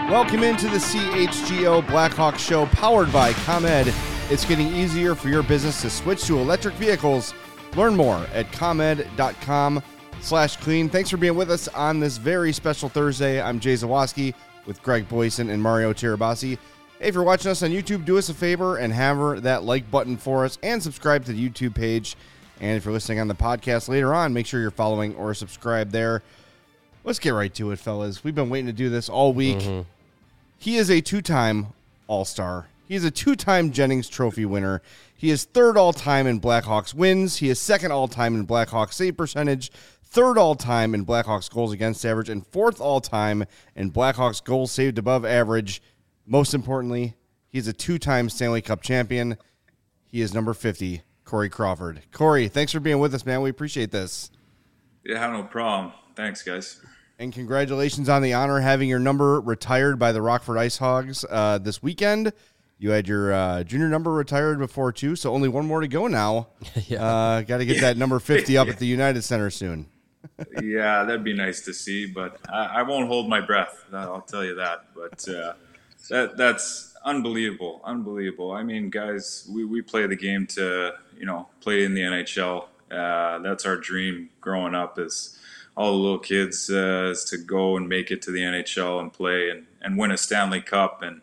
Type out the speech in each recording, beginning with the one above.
Welcome into the CHGO Blackhawk Show powered by ComEd. It's getting easier for your business to switch to electric vehicles. Learn more at comed.com/clean. Thanks for being with us on this very special Thursday. I'm Jay Zawoski with Greg Boyson and Mario Tirabassi. Hey, if you're watching us on YouTube, do us a favor and hammer that like button for us and subscribe to the YouTube page. And if you're listening on the podcast later on, make sure you're following or subscribed there. Let's get right to it, fellas. We've been waiting to do this all week. He is a two-time All-Star. He is a two-time Jennings Trophy winner. He is third all-time in Blackhawks wins. He is second all-time in Blackhawks save percentage, third all-time in Blackhawks goals against average, and fourth all-time in Blackhawks goals saved above average. Most importantly, he's a two-time Stanley Cup champion. He is number 50, Corey Crawford. Corey, thanks for being with us, man. We appreciate this. Yeah, no problem. Thanks, guys. And congratulations on the honor having your number retired by the Rockford Ice Hogs this weekend. You had your junior number retired before, too, so only one more to go now. Got to get that number 50 up at the United Center soon. Yeah, that'd be nice to see, but I won't hold my breath. I'll tell you that. But that's unbelievable, unbelievable. I mean, guys, we play the game to, play in the NHL. That's our dream growing up is all the little kids is to go and make it to the NHL and play and win a Stanley Cup. And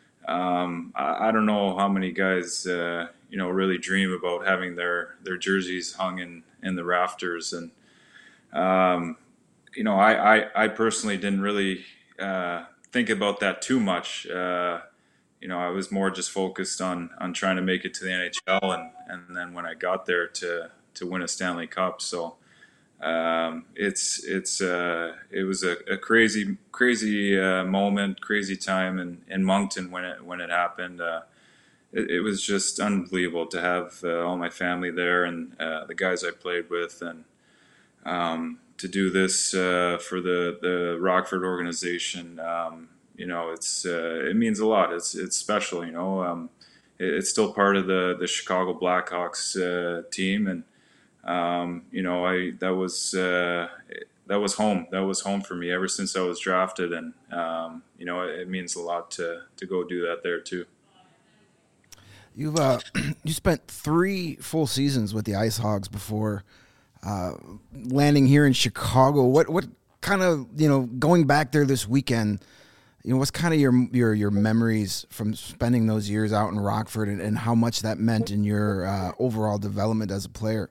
I don't know how many guys, really dream about having their jerseys hung in the rafters. And, I personally didn't really think about that too much. I was more just focused on trying to make it to the NHL and then when I got there to win a Stanley Cup. So it was a crazy moment, crazy time in Moncton when it happened. It was just unbelievable to have all my family there and the guys I played with, and to do this for the Rockford organization. It means a lot. It's special. It's still part of the Chicago Blackhawks team, and that was home. That was home for me ever since I was drafted, and it means a lot to go do that there too. You spent 3 full seasons with the Ice Hogs before landing here in Chicago. What kind of, going back there this weekend, what's kind of your memories from spending those years out in Rockford and how much that meant in your overall development as a player?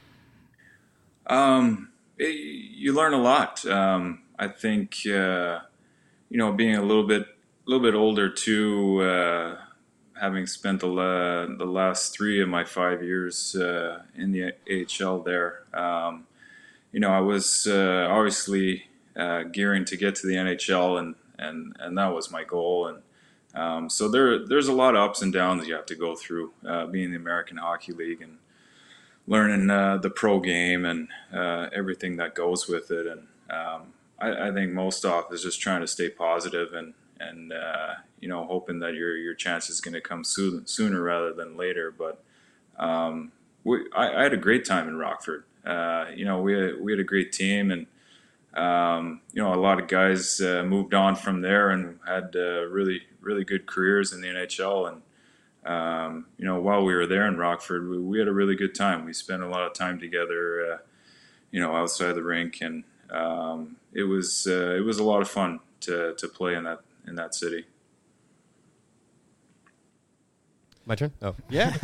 You learn a lot. I think, being a little bit older too, having spent the last 3 of my 5 years in the AHL there, I was obviously gearing to get to the NHL, and that was my goal. And so there's a lot of ups and downs you have to go through being in the American Hockey League and learning the pro game and everything that goes with it. And I think most off is just trying to stay positive and hoping that your chance is going to come sooner rather than later. But I had a great time in Rockford. We had a great team, and a lot of guys moved on from there and had really, really good careers in the NHL. And while we were there in Rockford, we had a really good time. We spent a lot of time together, outside the rink, and it was a lot of fun to play in that city. My turn? Oh, Yeah.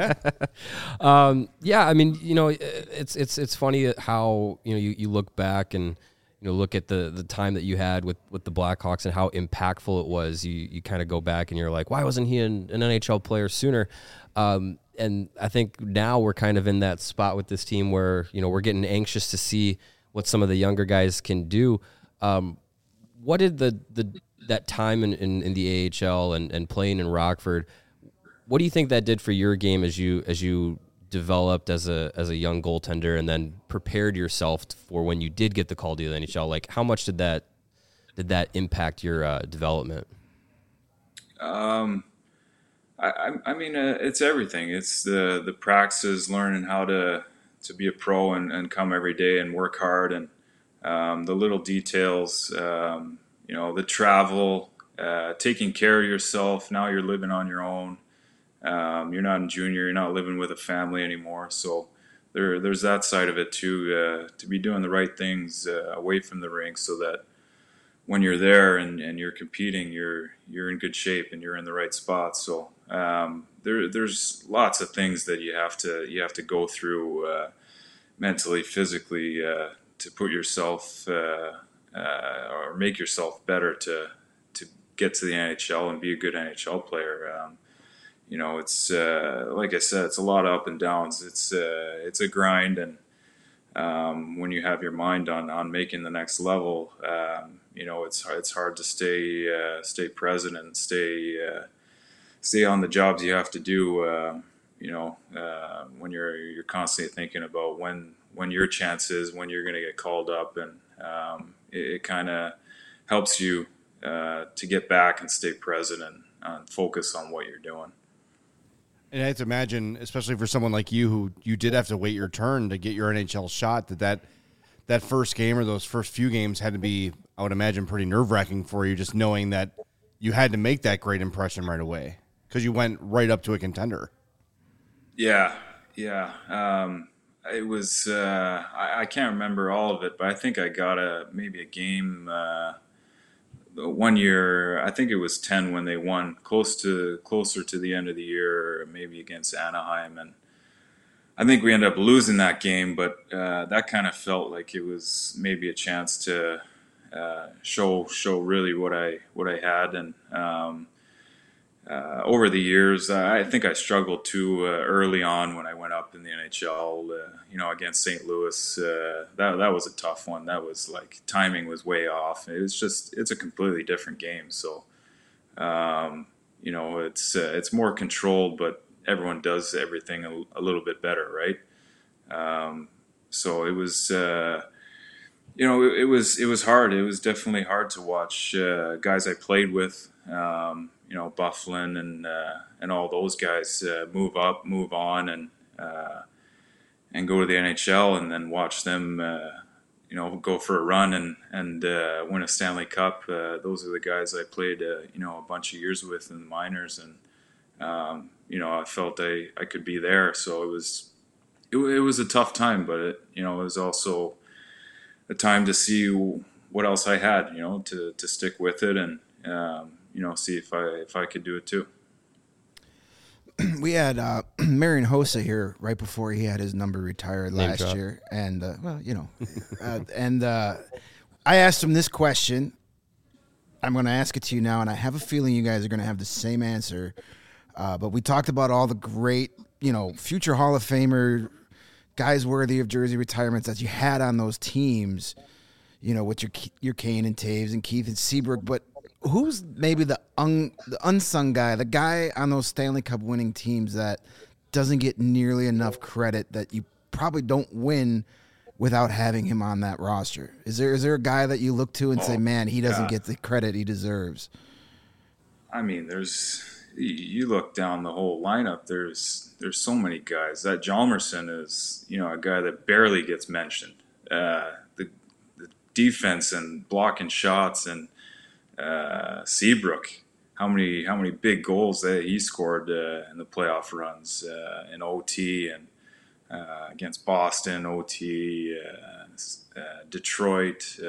I mean, it's funny how, you look back and, look at the time that you had with the Blackhawks and how impactful it was. You kind of go back and you're like, why wasn't he an NHL player sooner? And I think now we're kind of in that spot with this team where, we're getting anxious to see what some of the younger guys can do. What did that time in the AHL and playing in Rockford, what do you think that did for your game as you developed as a young goaltender and then prepared yourself for when you did get the call to the NHL? Like, how much did that impact your development? I mean, it's everything. It's the practices, learning how to be a pro and come every day and work hard, and the little details, the travel, taking care of yourself. Now you're living on your own. You're not in junior. You're not living with a family anymore. So there's that side of it too. To be doing the right things away from the rink, so that when you're there and you're competing, you're in good shape and you're in the right spot. So there's lots of things that you have to go through mentally, physically, to put yourself or make yourself better to get to the NHL and be a good NHL player. It's like I said, it's a lot of up and downs. It's a grind, and when you have your mind on making the next level, it's hard to stay present and stay on the jobs you have to do. When you're constantly thinking about when your chance is, when you're going to get called up, and it kind of helps you to get back and stay present and focus on what you're doing. And I have to imagine, especially for someone like you, who you did have to wait your turn to get your NHL shot, that first game or those first few games had to be, I would imagine, pretty nerve-wracking for you, just knowing that you had to make that great impression right away because you went right up to a contender. Yeah. It was, I can't remember all of it, but I think I got maybe a game 1 year. I think it was 10 when they won closer to the end of the year, maybe against Anaheim, and I think we ended up losing that game. But that kind of felt like it was maybe a chance to show really what I had. And over the years, I think I struggled too early on when I went up in the NHL. Against St. Louis, that was a tough one. That was like timing was way off. It's a completely different game. So, it's more controlled, but everyone does everything a little bit better, right? So it was, it was hard. It was definitely hard to watch guys I played with. Byfuglien and all those guys move up, move on, and go to the NHL, and then watch them, go for a run and win a Stanley Cup. Those are the guys I played, a bunch of years with in the minors, and I felt I could be there. So it was a tough time, but it was also a time to see what else I had, to stick with it and. See if I could do it too. We had Marian Hossa here right before he had his number retired last year, and I asked him this question. I'm going to ask it to you now, and I have a feeling you guys are going to have the same answer. But we talked about all the great, future Hall of Famer guys worthy of jersey retirements that you had on those teams. With your Kane and Taves and Keith and Seabrook, but who's maybe the unsung guy, the guy on those Stanley Cup winning teams that doesn't get nearly enough credit, that you probably don't win without having him on that roster? Is there a guy that you look to and say, man, he doesn't get the credit he deserves? I mean, you look down the whole lineup, there's so many guys. That Hjalmarsson is, a guy that barely gets mentioned. The defense and blocking shots, and Seabrook, how many big goals that he scored in the playoff runs in OT and against Boston, OT, Detroit.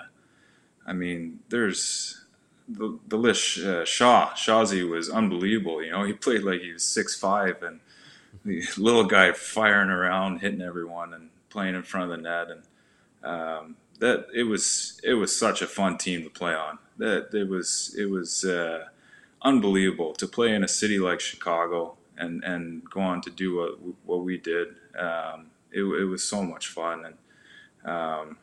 There's the list. Shawzy was unbelievable. He played like he was 6'5", and the little guy firing around, hitting everyone, and playing in front of the net. And that it was such a fun team to play on. That it was unbelievable to play in a city like Chicago and go on to do what we did. It was so much fun, and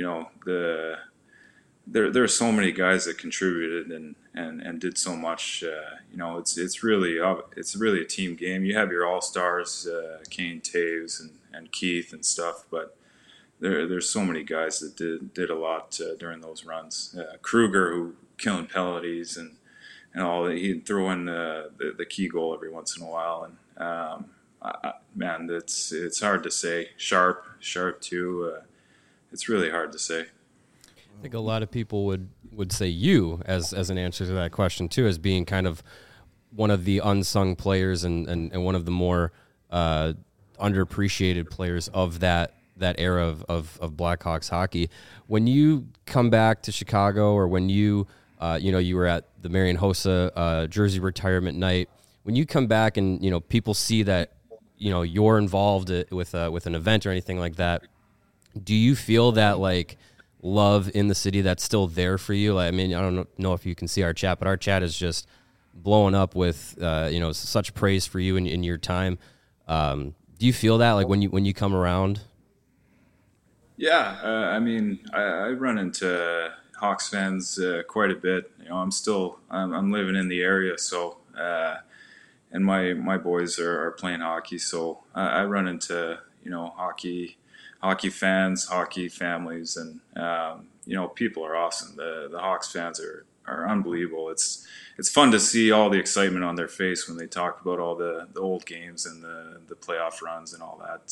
there are so many guys that contributed and did so much. It's really a team game. You have your all-stars, Kane, Taves, and Keith and stuff, but there's so many guys that did a lot during those runs. Kruger, who killing penalties and all that, he'd throw in the key goal every once in a while. And it's hard to say. Sharp too. It's really hard to say. I think a lot of people would say you as an answer to that question too, as being kind of one of the unsung players and one of the more underappreciated players of that era of Blackhawks hockey. When you come back to Chicago, or when you you were at the Marian Hossa jersey retirement night, when you come back and people see that you're involved with an event or anything like that, do you feel that like love in the city that's still there for you? Like, I mean, I don't know if you can see our chat, but our chat is just blowing up with such praise for you in your time. Do you feel that like when you come around? Yeah, I mean, I run into Hawks fans quite a bit. I'm living in the area, so and my boys are playing hockey, so I run into hockey fans, hockey families, and people are awesome. The Hawks fans are unbelievable. It's fun to see all the excitement on their face when they talk about all the old games and the playoff runs and all that.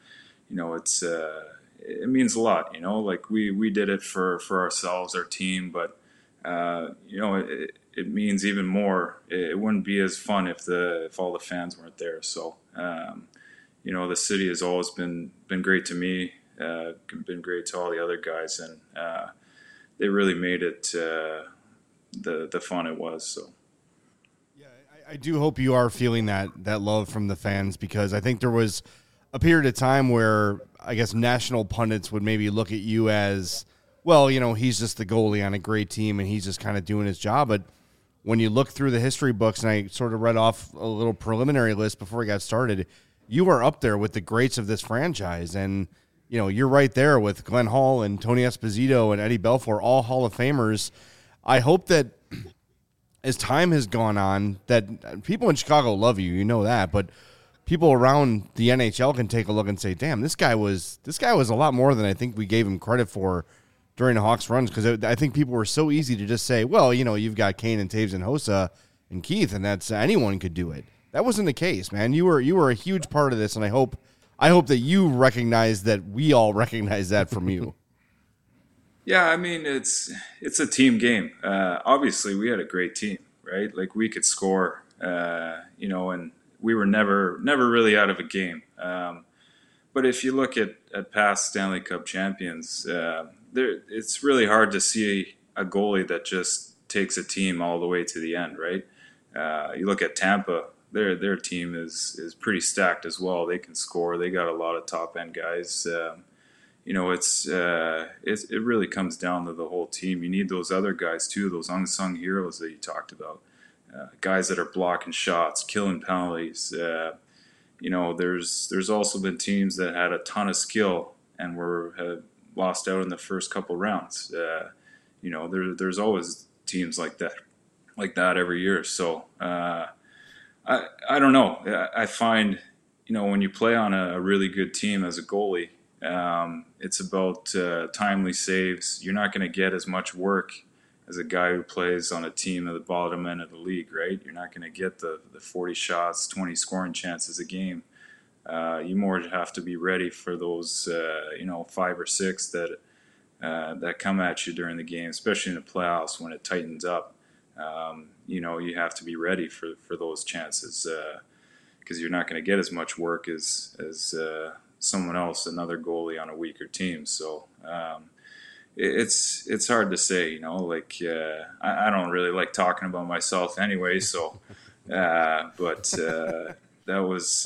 It means a lot. Like we did it for ourselves, our team, but it means even more. It wouldn't be as fun if all the fans weren't there. So. The city has always been great to me, been great to all the other guys, and they really made it the fun it was. So, yeah, I do hope you are feeling that love from the fans, because I think there was a period of time where I guess national pundits would maybe look at you as, well, he's just the goalie on a great team and he's just kind of doing his job. But when you look through the history books, and I sort of read off a little preliminary list before we got started, you are up there with the greats of this franchise. And, you're right there with Glenn Hall and Tony Esposito and Eddie Belfour, all Hall of Famers. I hope that as time has gone on, that people in Chicago love you, that, but people around the NHL can take a look and say, damn, this guy was a lot more than I think we gave him credit for during the Hawks runs. Because I think people were so easy to just say, well, you've got Kane and Taves and Hossa and Keith, and that's anyone could do it. That wasn't the case, man. You were a huge part of this, and I hope that you recognize that we all recognize that from you. Yeah, I mean, it's a team game. Obviously, we had a great team, right? Like, we could score, and we were never really out of a game. But if you look at past Stanley Cup champions, it's really hard to see a goalie that just takes a team all the way to the end, right? You look at Tampa. Their team is pretty stacked as well. They can score. They got a lot of top end guys. It really comes down to the whole team. You need those other guys too, those unsung heroes that you talked about, guys that are blocking shots, killing penalties. There's also been teams that had a ton of skill and have lost out in the first couple rounds. There's always teams like that every year. So. I don't know. I find, when you play on a really good team as a goalie, it's about timely saves. You're not going to get as much work as a guy who plays on a team at the bottom end of the league, right? You're not going to get the 40 shots, 20 scoring chances a game. You more have to be ready for those, 5 or 6 that come at you during the game, especially in the playoffs when it tightens up. You have to be ready for those chances because you're not going to get as much work as someone else, another goalie on a weaker team. So it's hard to say, I don't really like talking about myself anyway. So, but that was,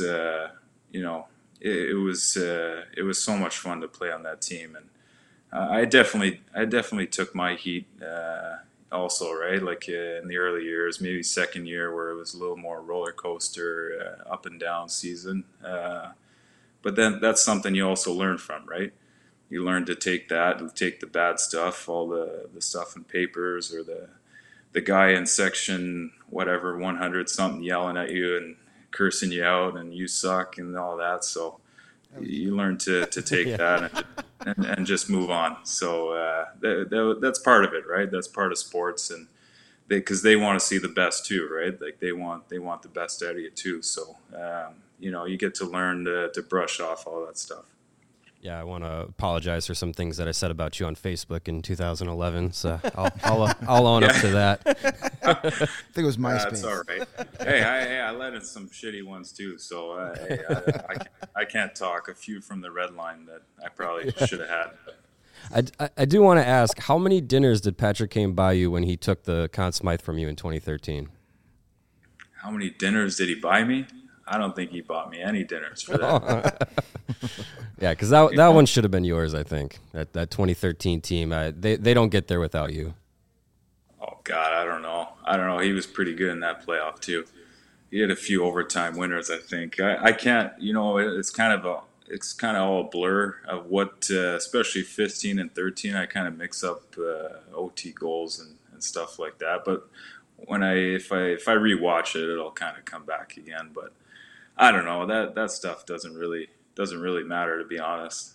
it was so much fun to play on that team, and I definitely took my heat. Also, right, like in the early years, maybe second year where it was a little more roller coaster, up and down season. But then that's something you also learn from, right? You learn to take the bad stuff, all the stuff in papers, or the guy in section whatever 100 something yelling at you and cursing you out and you suck and all that. So you learn to take Yeah. that and just move on. So that's part of it, right? That's part of sports, and because they want to see the best too, right? Like they want the best out of you too. So you get to learn to brush off all that stuff. Yeah, I want to apologize for some things that I said about you on Facebook in 2011. So I'll own up to that. I think it was MySpace. That's all right. Hey, I let in some shitty ones too. So I can't talk. A few from the red line that I probably should have had. I do want to ask, how many dinners did Patrick Kane buy you when he took the Conn Smythe from you in 2013? How many dinners did he buy me? I don't think he bought me any dinners for that. Yeah, because that one should have been yours, I think. That 2013 team, they don't get there without you. Oh God, I don't know. He was pretty good in that playoff too. He had a few overtime winners, I think. I can't. It's kind of all a blur of what, especially 15 and 13. I kind of mix up OT goals and stuff like that. But if I rewatch it, it'll kind of come back again. But I don't know. That stuff doesn't really matter, to be honest.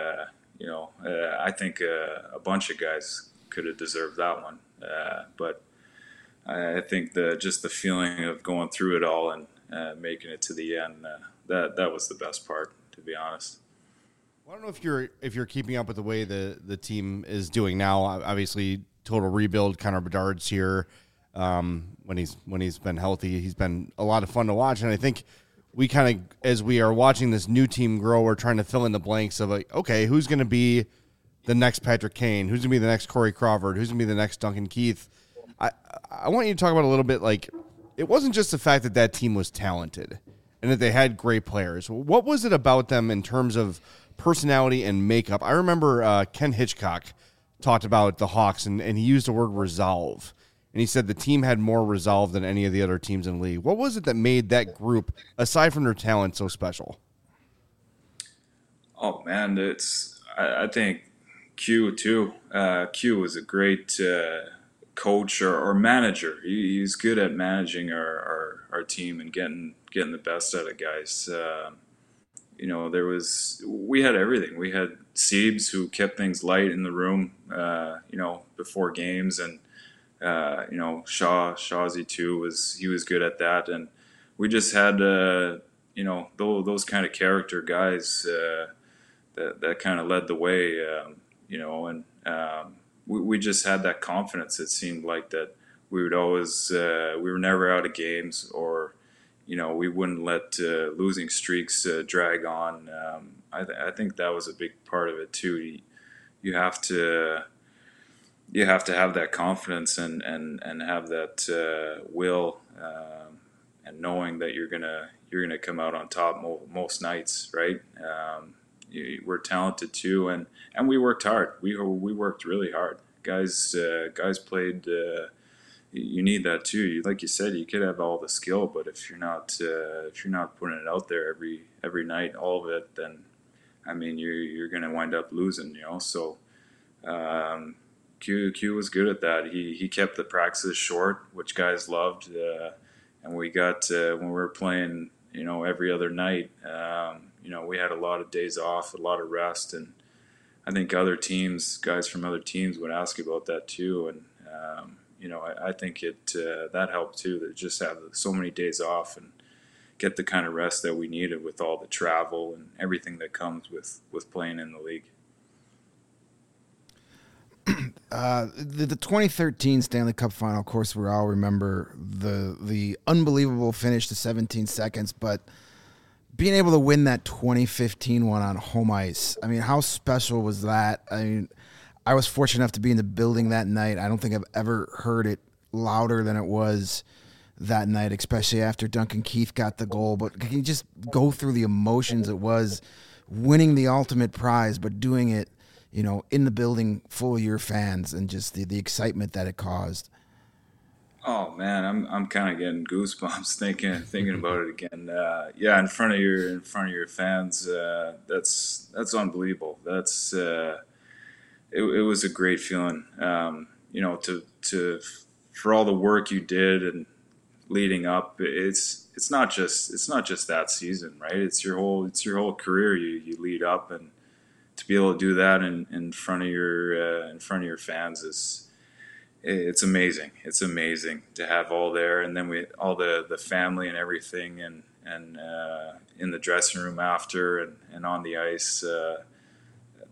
I think a bunch of guys could have deserved that one, but I think just the feeling of going through it all and making it to the end, that was the best part, to be honest. Well, I don't know if you're keeping up with the way the team is doing now. Obviously, total rebuild. Connor Bedard's here. When he's been healthy, he's been a lot of fun to watch, and I think we kind of, as we are watching this new team grow, we're trying to fill in the blanks of like, okay, who's going to be the next Patrick Kane? Who's going to be the next Corey Crawford? Who's going to be the next Duncan Keith? I want you to talk about a little bit, like, it wasn't just the fact that team was talented and that they had great players. What was it about them in terms of personality and makeup? I remember Ken Hitchcock talked about the Hawks, and he used the word resolve. And he said the team had more resolve than any of the other teams in the league. What was it that made that group, aside from their talent, so special? Oh, man, I think Q, too. Q was a great coach or manager. He's good at managing our team and getting the best out of guys. We had everything. We had Siebes, who kept things light in the room, before games, and Shawzy too was good at that, and we just had those kind of character guys that kind of led the way, we just had that confidence. It seemed like that we would always we were never out of games, or we wouldn't let losing streaks drag on. I think that was a big part of it too. You have to have that confidence and have that will, and knowing that you're gonna come out on top most nights, right? We're talented too, and we worked hard. We worked really hard. Guys played. You need that too. Like you said, you could have all the skill, but if you're not putting it out there every night, all of it, then I mean you're gonna wind up losing. So. Q was good at that. He kept the practices short, which guys loved, and we got when we were playing, every other night. We had a lot of days off, a lot of rest, and I think guys from other teams would ask about that too. And I think that helped too. To just have so many days off and get the kind of rest that we needed with all the travel and everything that comes with playing in the league. The 2013 Stanley Cup final, of course, we all remember the unbelievable finish to 17 seconds, but being able to win that 2015 one on home ice, I mean, how special was that? I mean, I was fortunate enough to be in the building that night. I don't think I've ever heard it louder than it was that night, especially after Duncan Keith got the goal. But can you just go through the emotions it was winning the ultimate prize, but doing it, in the building full of your fans, and just the excitement that it caused? Oh man, I'm kind of getting goosebumps thinking about it again. In front of your fans, that's unbelievable. That's it was a great feeling. To for all the work you did and leading up, it's not just that season, right? It's your whole career. You lead up, and to be able to do that in front of your fans it's amazing. It's amazing to have all there, and then all the family and everything, and in the dressing room after and on the ice.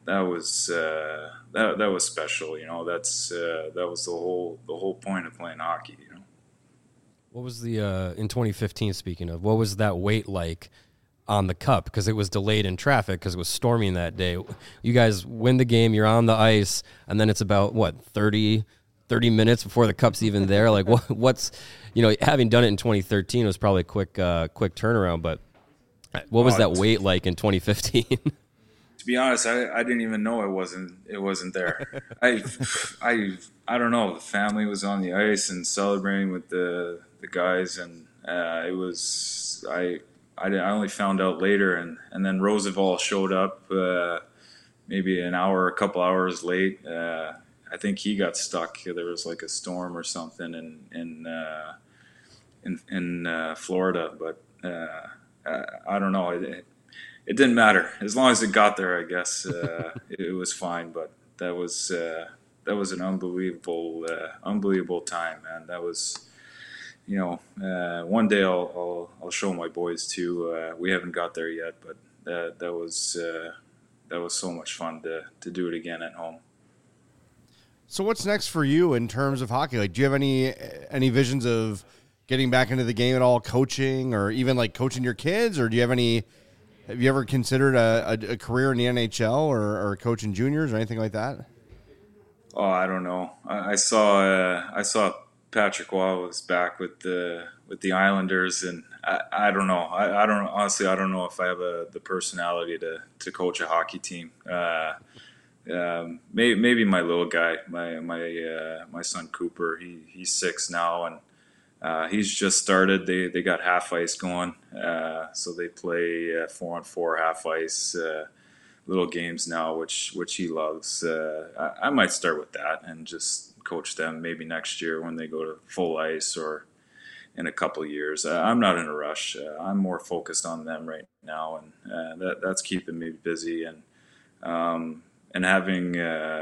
that was that was special. That was the whole point of playing hockey. What was the in 2015? Speaking of, what was that wait like on the cup? Because it was delayed in traffic because it was storming that day. You guys win the game. You're on the ice, and then it's about 30 minutes before the cup's even there. Like what's having done it in 2013 was probably a quick turnaround. But what was that wait like in 2015? To be honest, I didn't even know it wasn't there. I don't know. The family was on the ice and celebrating with the guys, and it was I only found out later, and then Roosevelt showed up maybe a couple hours late. I think he got stuck. There was like a storm or something in Florida, but I don't know. It didn't matter as long as it got there. I guess it was fine. But that was an unbelievable time, man. That was, one day I'll show my boys too. We haven't got there yet, but that was so much fun to do it again at home. So what's next for you in terms of hockey? Like, do you have any visions of getting back into the game at all, coaching, or even like coaching your kids, or have you ever considered a career in the NHL or coaching juniors or anything like that? Oh, I don't know. I saw Patrick Waugh was back with the Islanders, and I don't know. I don't honestly. I don't know if I have the personality to coach a hockey team. Maybe my little guy, my son Cooper. He's 6 now, and he's just started. They got half ice going, so they play 4-on-4 half ice little games now, which he loves. I might start with that and just coach them maybe next year when they go to full ice or in a couple of years. I'm not in a rush. I'm more focused on them right now, and that's keeping me busy. And having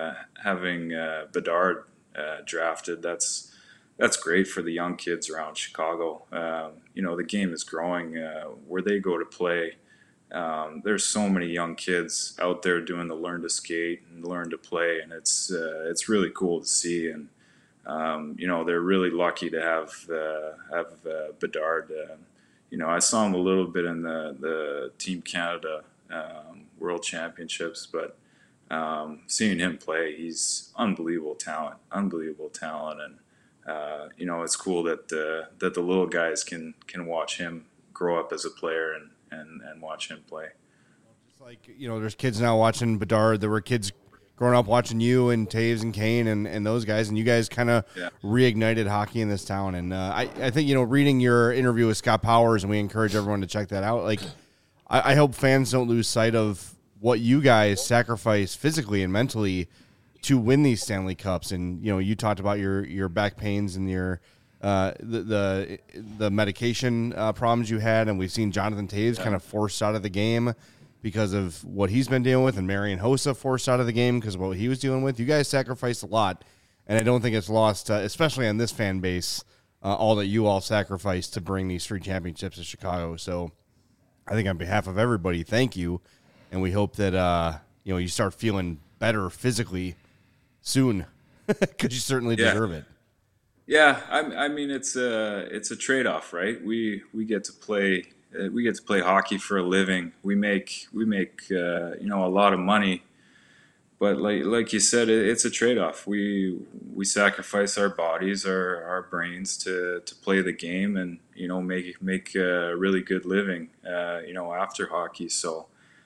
Bedard drafted, that's great for the young kids around Chicago. The game is growing where they go to play. There's so many young kids out there doing the learn to skate and learn to play, and it's really cool to see. And they're really lucky to have Bedard. I saw him a little bit in the Team Canada World Championships, but seeing him play, he's unbelievable talent, and it's cool that the little guys can watch him grow up as a player and watch him play. Just like, there's kids now watching Bedard. There were kids growing up watching you and Taves and Kane and those guys, and you guys kind of reignited hockey in this town. And I think, reading your interview with Scott Powers, and we encourage everyone to check that out. Like, I hope fans don't lose sight of what you guys sacrifice physically and mentally to win these Stanley Cups. And, you talked about your back pains and your the medication problems you had, and we've seen Jonathan Taves kind of forced out of the game because of what he's been dealing with, and Marian Hossa forced out of the game because of what he was dealing with. You guys sacrificed a lot, and I don't think it's lost, especially on this fan base, all that you all sacrificed to bring these 3 championships to Chicago. So I think on behalf of everybody, thank you, and we hope that you start feeling better physically soon because you certainly deserve it. Yeah, I mean it's a trade-off, right? We get to play hockey for a living. We make a lot of money, but like you said, it's a trade-off. We sacrifice our bodies, our brains to play the game, and make a really good living after hockey. So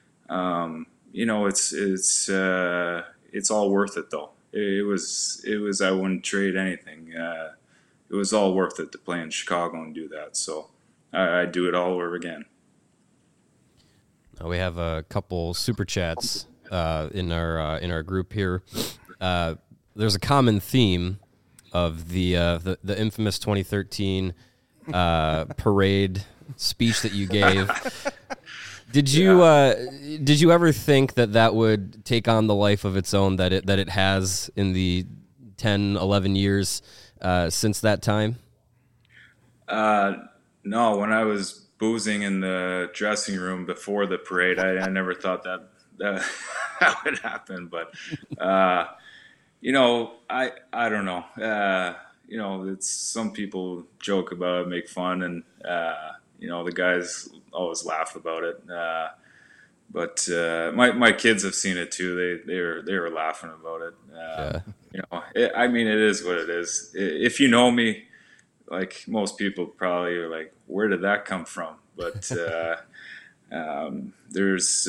it's all worth it though. It was I wouldn't trade anything. It was all worth it to play in Chicago and do that. So I'd do it all over again. We have a couple super chats in our group here. There's a common theme of the infamous 2013 parade speech that you gave. Did you ever think that would take on the life of its own that it has in the 10, 11 years since that time? No, when I was boozing in the dressing room before the parade, I never thought that that would happen. But I don't know. It's some people joke about it, make fun, and the guys always laugh about it. But my kids have seen it too. They were laughing about it. It is what it is. If you know me, like most people probably are like, where did that come from? But there's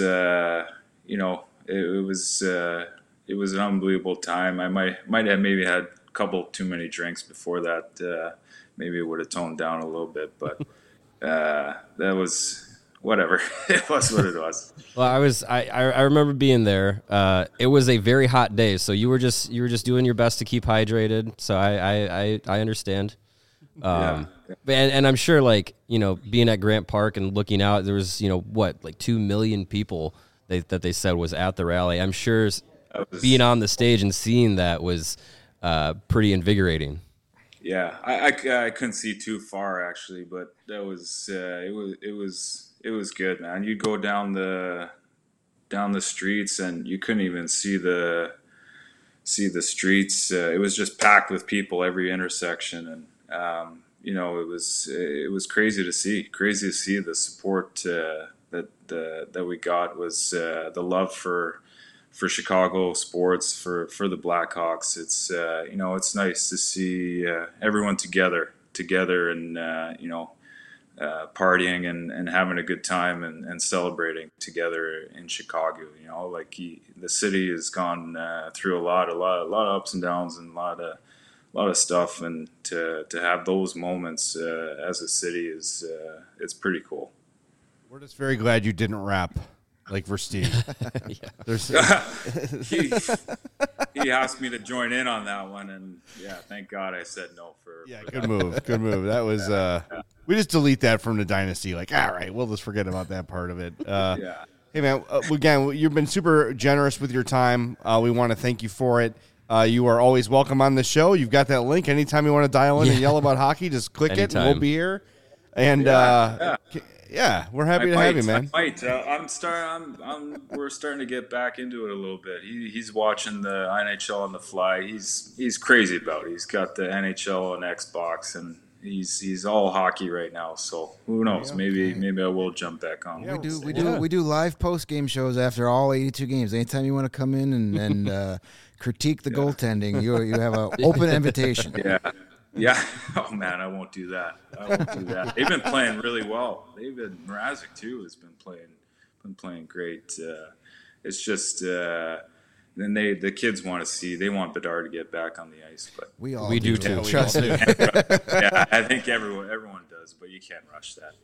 it was an unbelievable time. I might have maybe had a couple too many drinks before that. Maybe it would have toned down a little bit, but that was whatever. It was what it was. Well, I remember being there. It was a very hot day, so you were just doing your best to keep hydrated. So I understand. And I'm sure, like, being at Grant Park and looking out, there was, 2 million people that they said was at the rally. I'm sure being on the stage and seeing that was pretty invigorating. Yeah, I couldn't see too far actually, but that was it was good, man. You'd go down the streets and you couldn't even see the streets. It was just packed with people every intersection, and it was crazy to see. Crazy to see the support that we got. Was the love for Chicago sports, for the Blackhawks. It's it's nice to see everyone together and partying and having a good time and celebrating together in Chicago. The city has gone through a lot of ups and downs and a lot of stuff, and to have those moments as a city is it's pretty cool. We're just very glad you didn't rap like Versteeg. He asked me to join in on that one, and thank God I said no for good move. That was we just delete that from the dynasty. Like, all right, we'll just forget about that part of it. Hey man, again, you've been super generous with your time. We want to thank you for it. You are always welcome on the show. You've got that link. Anytime you want to dial in and yell about hockey, just click it and we'll be here. And we're happy to have you, man. We're starting to get back into it a little bit. He's watching the NHL on the fly. He's crazy about it. He's got the NHL on Xbox, and he's all hockey right now. So who knows? Maybe I will jump back on. We do live post game shows after all 82 games. Anytime you want to come in and critique the goaltending, you have an open invitation. Yeah. Oh man, I won't do that. They've been playing really well. Mrazek too has been playing great. It's just then the kids want to see. They want Bedard to get back on the ice, but we do too. Trust me. Yeah, I think everyone does, but you can't rush that.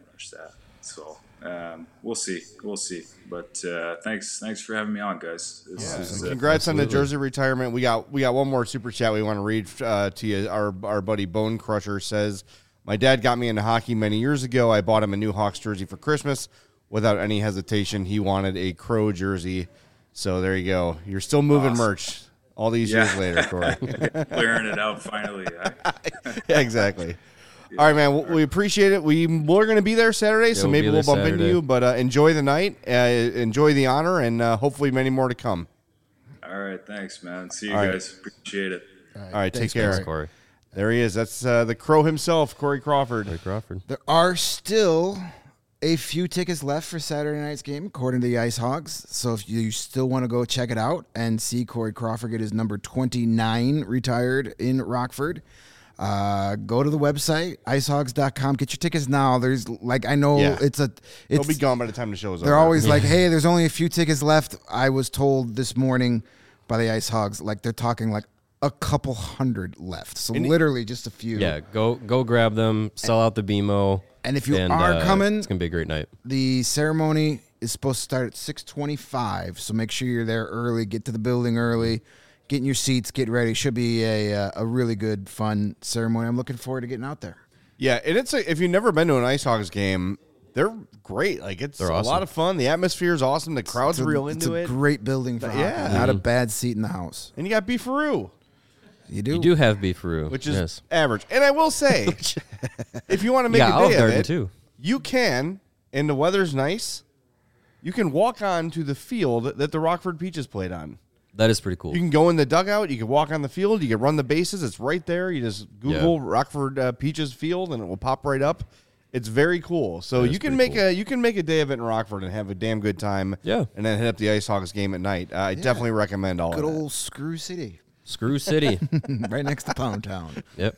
So we'll see. But thanks for having me on, guys. Congrats on the jersey retirement. We got one more super chat we want to read to you. Our buddy Bone Crusher says, "My dad got me into hockey many years ago. I bought him a new Hawks jersey for Christmas. Without any hesitation, he wanted a Crow jersey. So there you go. You're still moving merch all these years later, Corey. Clearing it out finally. Yeah, exactly. All right, man. We appreciate it. We're going to be there Saturday, so maybe we'll bump into you. But enjoy the night, enjoy the honor, and hopefully many more to come. All right, thanks, man. See you guys. Appreciate it. All right, take care. Thanks, Corey. There he is. That's the Crow himself, Corey Crawford. There are still a few tickets left for Saturday night's game, according to the Ice Hogs. So if you still want to go check it out and see Corey Crawford get his number 29 retired in Rockford, go to the website, icehogs.com. Get your tickets now. There's They'll be gone by the time the show is over. They're always like, hey, there's only a few tickets left. I was told this morning by the Ice Hogs, like they're talking like a couple hundred left. So literally just a few. Yeah, go grab them, sell out the BMO. And if you are coming, it's going to be a great night. The ceremony is supposed to start at 6:25, so make sure you're there early. Get to the building early. Get in your seats. Get ready. Should be a really good, fun ceremony. I'm looking forward to getting out there. Yeah, and if you've never been to an Ice Hogs game, they're great. Like they're awesome. A lot of fun. The atmosphere is awesome. The crowd's real into it. It's a great building for hockey. Not a bad seat in the house. And you got Beefaroo. You do. You do have Beefaroo, which is average. And I will say, if you want to make a day of it, too. You can, and the weather's nice, you can walk on to the field that the Rockford Peaches played on. That is pretty cool. You can go in the dugout. You can walk on the field. You can run the bases. It's right there. You just Google Rockford Peaches Field, and it will pop right up. It's very cool. So you can make a day of it in Rockford and have a damn good time. Yeah. And then hit up the Ice Hogs game at night. I definitely recommend all Good of that. old Screw City. Screw City. Right next to Pound Town. Yep.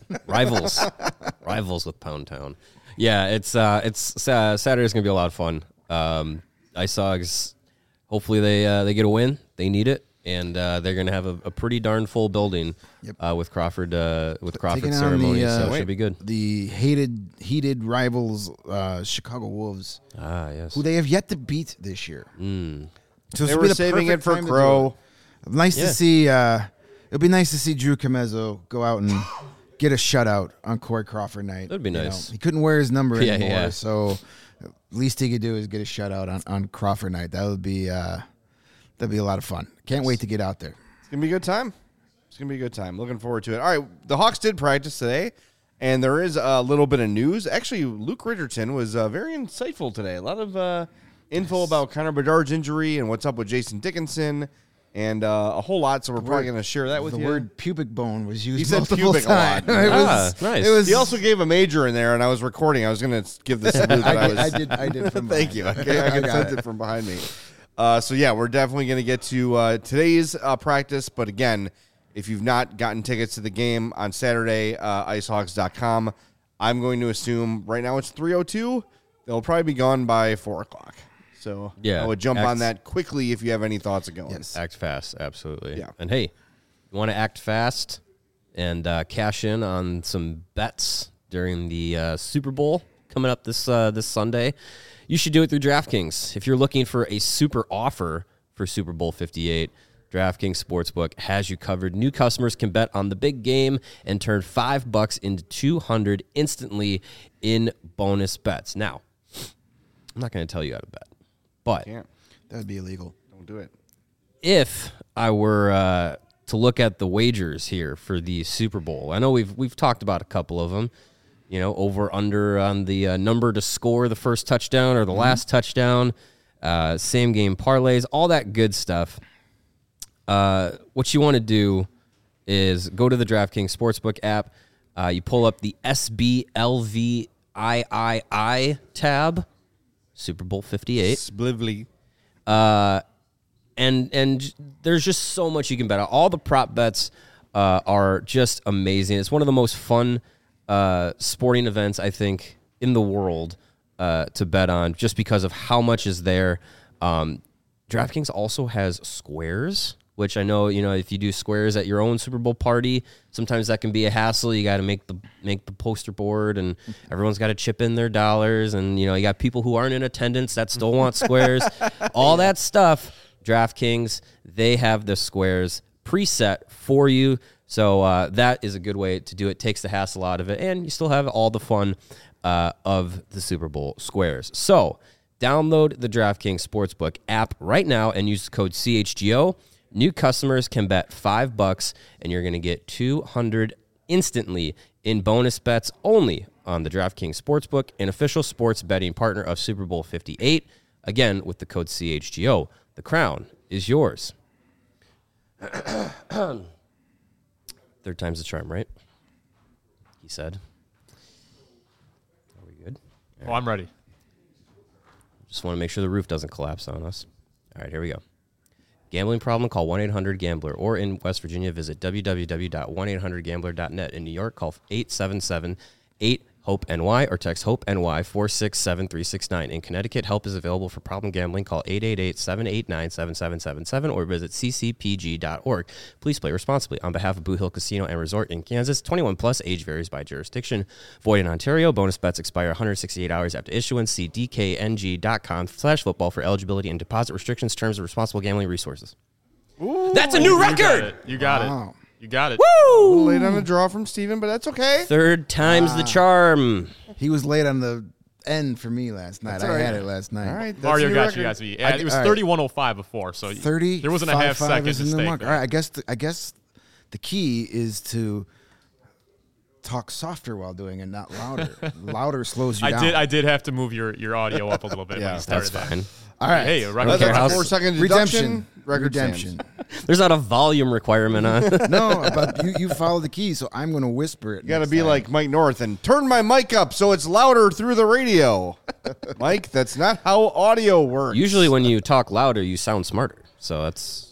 Rivals with Pound Town. Yeah, it's Saturday's gonna be a lot of fun. Ice Hogs, hopefully they get a win. They need it. And they're going to have a pretty darn full building with Crawford ceremony, so it should be good. The heated rivals, Chicago Wolves. Ah, yes. Who they have yet to beat this year. So They were saving it for Crow. Nice to see. It'll be nice to see Drew Comezzo go out and get a shutout on Corey Crawford night. That'd be nice. He couldn't wear his number anymore, Yeah. so least he could do is get a shutout on Crawford night. That would be that'd be a lot of fun. Can't wait to get out there. It's gonna be a good time. It's gonna be a good time. Looking forward to it. All right, the Hawks did practice today, and there is a little bit of news. Actually, Luke Richardson was very insightful today. A lot of info about Connor Bedard's injury and what's up with Jason Dickinson, and a whole lot. So we're probably gonna share that with The you. word pubic bone was used He said multiple pubic a lot. times. Nice. It was. He also gave a major in there, and I was recording. I was going to give this to Luke. But I did. From Thank you. I got can sense it from behind me. So, yeah, we're definitely going to get to today's practice. But, again, if you've not gotten tickets to the game on Saturday, icehogs.com, I'm going to assume right now it's 3:02. They'll probably be gone by 4 o'clock. So, Yeah, I would jump on that quickly if you have any thoughts of going. Yes. Act fast, absolutely. Yeah. And hey, you want to act fast and cash in on some bets during the Super Bowl coming up this Sunday, you should do it through DraftKings. If you're looking for a super offer for Super Bowl 58, DraftKings Sportsbook has you covered. New customers can bet on the big game and turn $5 into $200 instantly in bonus bets. Now, I'm not going to tell you how to bet, but Can't. That would be illegal. Don't do it. if I were to look at the wagers here for the Super Bowl, I know we've talked about a couple of them. You know, over under on the number to score the first touchdown or the last touchdown, same game parlays, all that good stuff. What you want to do is go to the DraftKings Sportsbook app. You pull up the SBLVIII tab, Super Bowl 58. Sblivly. And there's just so much you can bet on. All the prop bets are just amazing. It's one of the most fun sporting events, I think, in the world to bet on, just because of how much is there. DraftKings also has squares, which I know, if you do squares at your own Super Bowl party, sometimes that can be a hassle. You got to make the poster board, and everyone's got to chip in their dollars, and you got people who aren't in attendance that still want squares. All that stuff. DraftKings, they have the squares preset for you. So that is a good way to do it. Takes the hassle out of it, and you still have all the fun of the Super Bowl squares. So download the DraftKings Sportsbook app right now and use the code CHGO. New customers can bet $5, and you're going to get $200 instantly in bonus bets only on the DraftKings Sportsbook, an official sports betting partner of Super Bowl 58. Again, with the code CHGO. The crown is yours. Third time's the charm, right? He said. Are we good? Oh, I'm ready. Just want to make sure the roof doesn't collapse on us. All right, here we go. Gambling problem? Call 1-800-GAMBLER. Or in West Virginia, visit www.1800gambler.net. In New York, call 877-8-HOPE-NY or text HOPE-NY 467-369. In Connecticut, help is available for problem gambling. Call 888-789-7777 or visit ccpg.org. Please play responsibly. On behalf of Boot Hill Casino and Resort in Kansas, 21 plus, age varies by jurisdiction. Void in Ontario. Bonus bets expire 168 hours after issuance. See dkng.com/football for eligibility and deposit restrictions, terms of responsible gambling resources. Ooh, That's a new record! You got Wow. it. You got it. a Woo! little late on the draw from Steven, but that's okay. Third time's the charm. He was late on the end for me last night. all I right. had it last night. All right, that's Mario a new got you record. guys. Yeah, it was all right. 31:05 before, so 30. there wasn't a half 5-5 second is the new mistake. mark. All right, I guess the key is to talk softer while doing it, not louder. Louder slows you down. I did have to move your audio up a little bit when Yeah, you started That's that. fine. All right. Hey, don't record care That's how a 4-second deduction. Record Redemption. stands. There's not a volume requirement on. No, but you follow the key, so I'm going to whisper it. You got to be like Mike North and turn my mic up so it's louder through the radio. Mike, that's not how audio works. Usually, when you talk louder, you sound smarter. So that's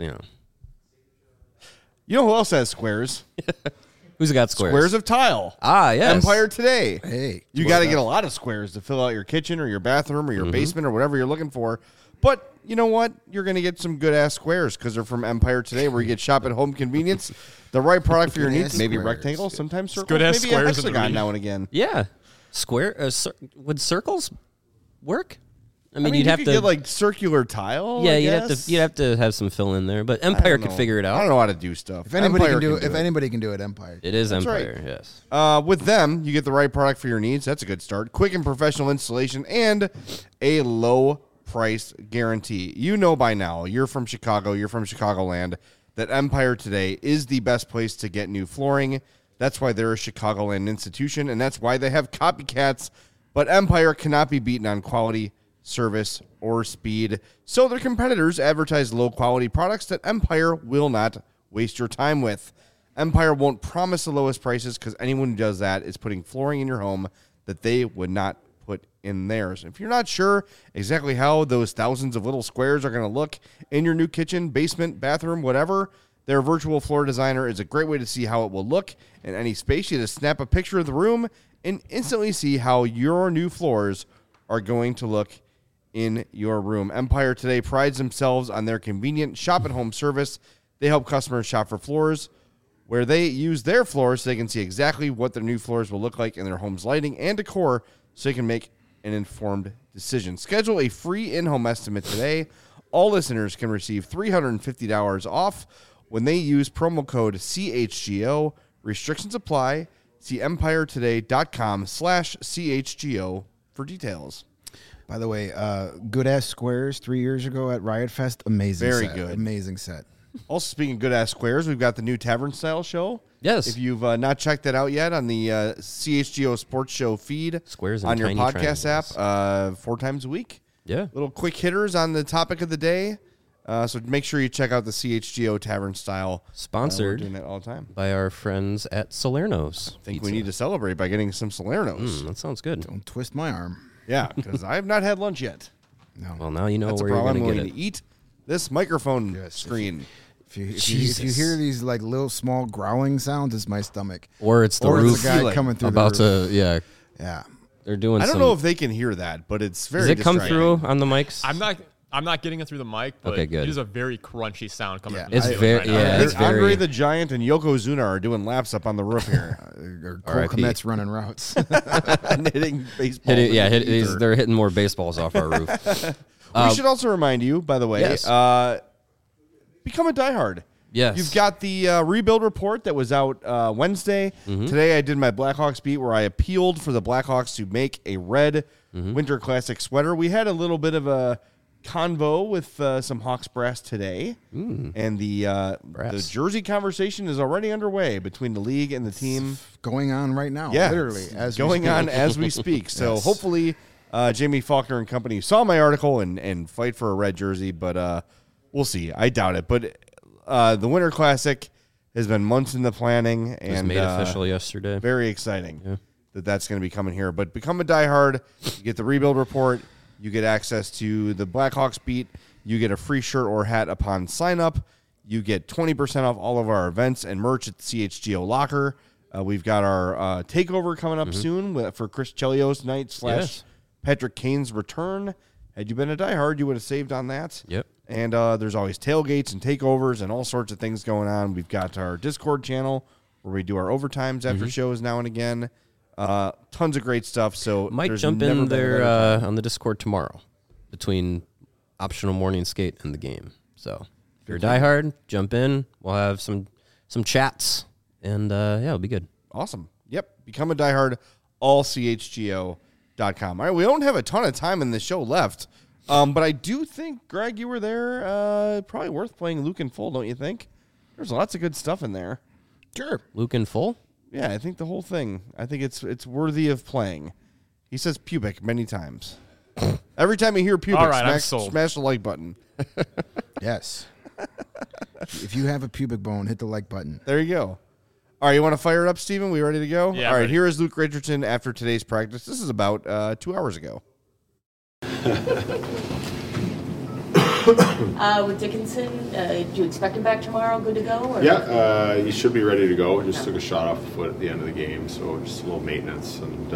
You know who else has squares? who's got squares? Squares of tile. Ah, yes. Empire Today. Hey, You got to get a lot of squares to fill out your kitchen or your bathroom or your basement or whatever you're looking for. But you know what? You're going to get some good-ass squares because they're from Empire Today, where you get shop at home convenience, the right product for your needs, Good-ass maybe squares. rectangle, sometimes circle, good-ass maybe a squares in the hexagon ring. now and again. Yeah, square. Would circles work? I I mean, mean, you'd you have could to get like circular tile. Yeah, I you'd guess. have to have some fill in there, but I Empire don't could know. figure it I out. don't know how to do stuff. if anybody Empire can do it, if anybody can do it, Empire. It is That's right. Empire, yes. With them, you get the right product for your needs. That's a good start. Quick and professional installation and a low price guarantee. You know by now, you're from Chicago, you're from Chicagoland, that Empire Today is the best place to get new flooring. That's why they're a Chicagoland institution, and that's why they have copycats. But Empire cannot be beaten on quality, service, or speed. So their competitors advertise low-quality products that Empire will not waste your time with. Empire won't promise the lowest prices because anyone who does that is putting flooring in your home that they would not put in theirs. If you're not sure exactly how those thousands of little squares are going to look in your new kitchen, basement, bathroom, whatever, their virtual floor designer is a great way to see how it will look in any space. You just snap a picture of the room and instantly see how your new floors are going to look in your room. Empire Today prides themselves on their convenient shop-at-home service. They help customers shop for floors where they use their floors so they can see exactly what their new floors will look like in their home's lighting and decor so they can make an informed decision. Schedule a free in-home estimate today. All listeners can receive $350 off when they use promo code CHGO. Restrictions apply. See empiretoday.com/CHGO for details. By the way, good ass squares 3 years ago at Riot Fest. Amazing. Very set. good. Amazing set. Also, speaking of good-ass squares, we've got the new Tavern Style show. Yes. If you've not checked that out yet on the CHGO Sports Show feed Squares and on your tiny podcast triangles. app 4 times a week. Yeah. Little quick hitters on the topic of the day. So make sure you check out the CHGO Tavern Style. Sponsored we're doing that all the time. by our friends at Salerno's. I think we need to celebrate by getting some Salernos. That sounds good. Don't twist my arm. Yeah, because I have not had lunch yet. No. Well, now you know That's a where you're problem. I'm going to going get to it. eat this microphone Yes, screen. If you Jesus. hear these like little small growling sounds, it's my stomach. Or it's the Or roof it's the guy ceiling coming through about the roof. to, yeah. Yeah. They're doing I don't some. know if they can hear that, but it's very Does it come distracting. through on the mics? I'm not getting it through the mic, but Okay, good. it is a very crunchy sound coming Yeah. from the It's ceiling very- right now. yeah, I it's think Andre very- the Giant and Yokozuna are doing laps up on the roof here. Or Cole R.I.P. Kmet's running routes. and hitting baseball. They're hitting more baseballs off our roof. We should also remind you, by the way, Yes. become a diehard. Yes. You've got the rebuild report that was out Wednesday. Mm-hmm. Today I did my Blackhawks beat where I appealed for the Blackhawks to make a red Mm-hmm. Winter Classic sweater. We had a little bit of a convo with some Hawks brass today, and the Brass. jersey conversation is already underway between the league and the team. Going on right now. Yeah, Literally. it's As we going speak. on as we speak. So Yes. hopefully, Jamie Faulkner and company saw my article and fight for a red jersey, but we'll see. I doubt it. But the Winter Classic has been months in the planning It was and made official yesterday. very exciting that that's going to be coming here. But become a diehard. You get the rebuild report. You get access to the Blackhawks beat. You get a free shirt or hat upon sign up. You get 20% off all of our events and merch at the CHGO Locker. We've got our takeover coming up soon for Chris Chelios night / Yes. Patrick Kane's return. Had you been a diehard, you would have saved on that. Yep. And there's always tailgates and takeovers and all sorts of things going on. We've got our Discord channel where we do our overtimes after shows now and again. Tons of great stuff. So Might there's jump never in been a there better time. on the Discord tomorrow between optional morning skate and the game. So if you're a diehard, jump in. We'll have some chats, and it'll be good. Awesome. Yep. Become a diehard. AllCHGO.com. All right. We don't have a ton of time in this show left. But I do think, Greg, you were there. Probably worth playing Luke in full, don't you think? There's lots of good stuff in there. Sure. Luke in full? Yeah, I think the whole thing. I think it's worthy of playing. He says pubic many times. Every time you hear pubic, All right, I'm sold. smash the like button. Yes. If you have a pubic bone, hit the like button. There you go. All right, you want to fire it up, Steven? We ready to go? Yeah, All right, ready. here is Luke Richardson after today's practice. This is about 2 hours ago. With Dickinson, do you expect him back tomorrow? Good to go? Or? Yeah, he should be ready to go. Just took a shot off the foot at the end of the game, so just a little maintenance. And,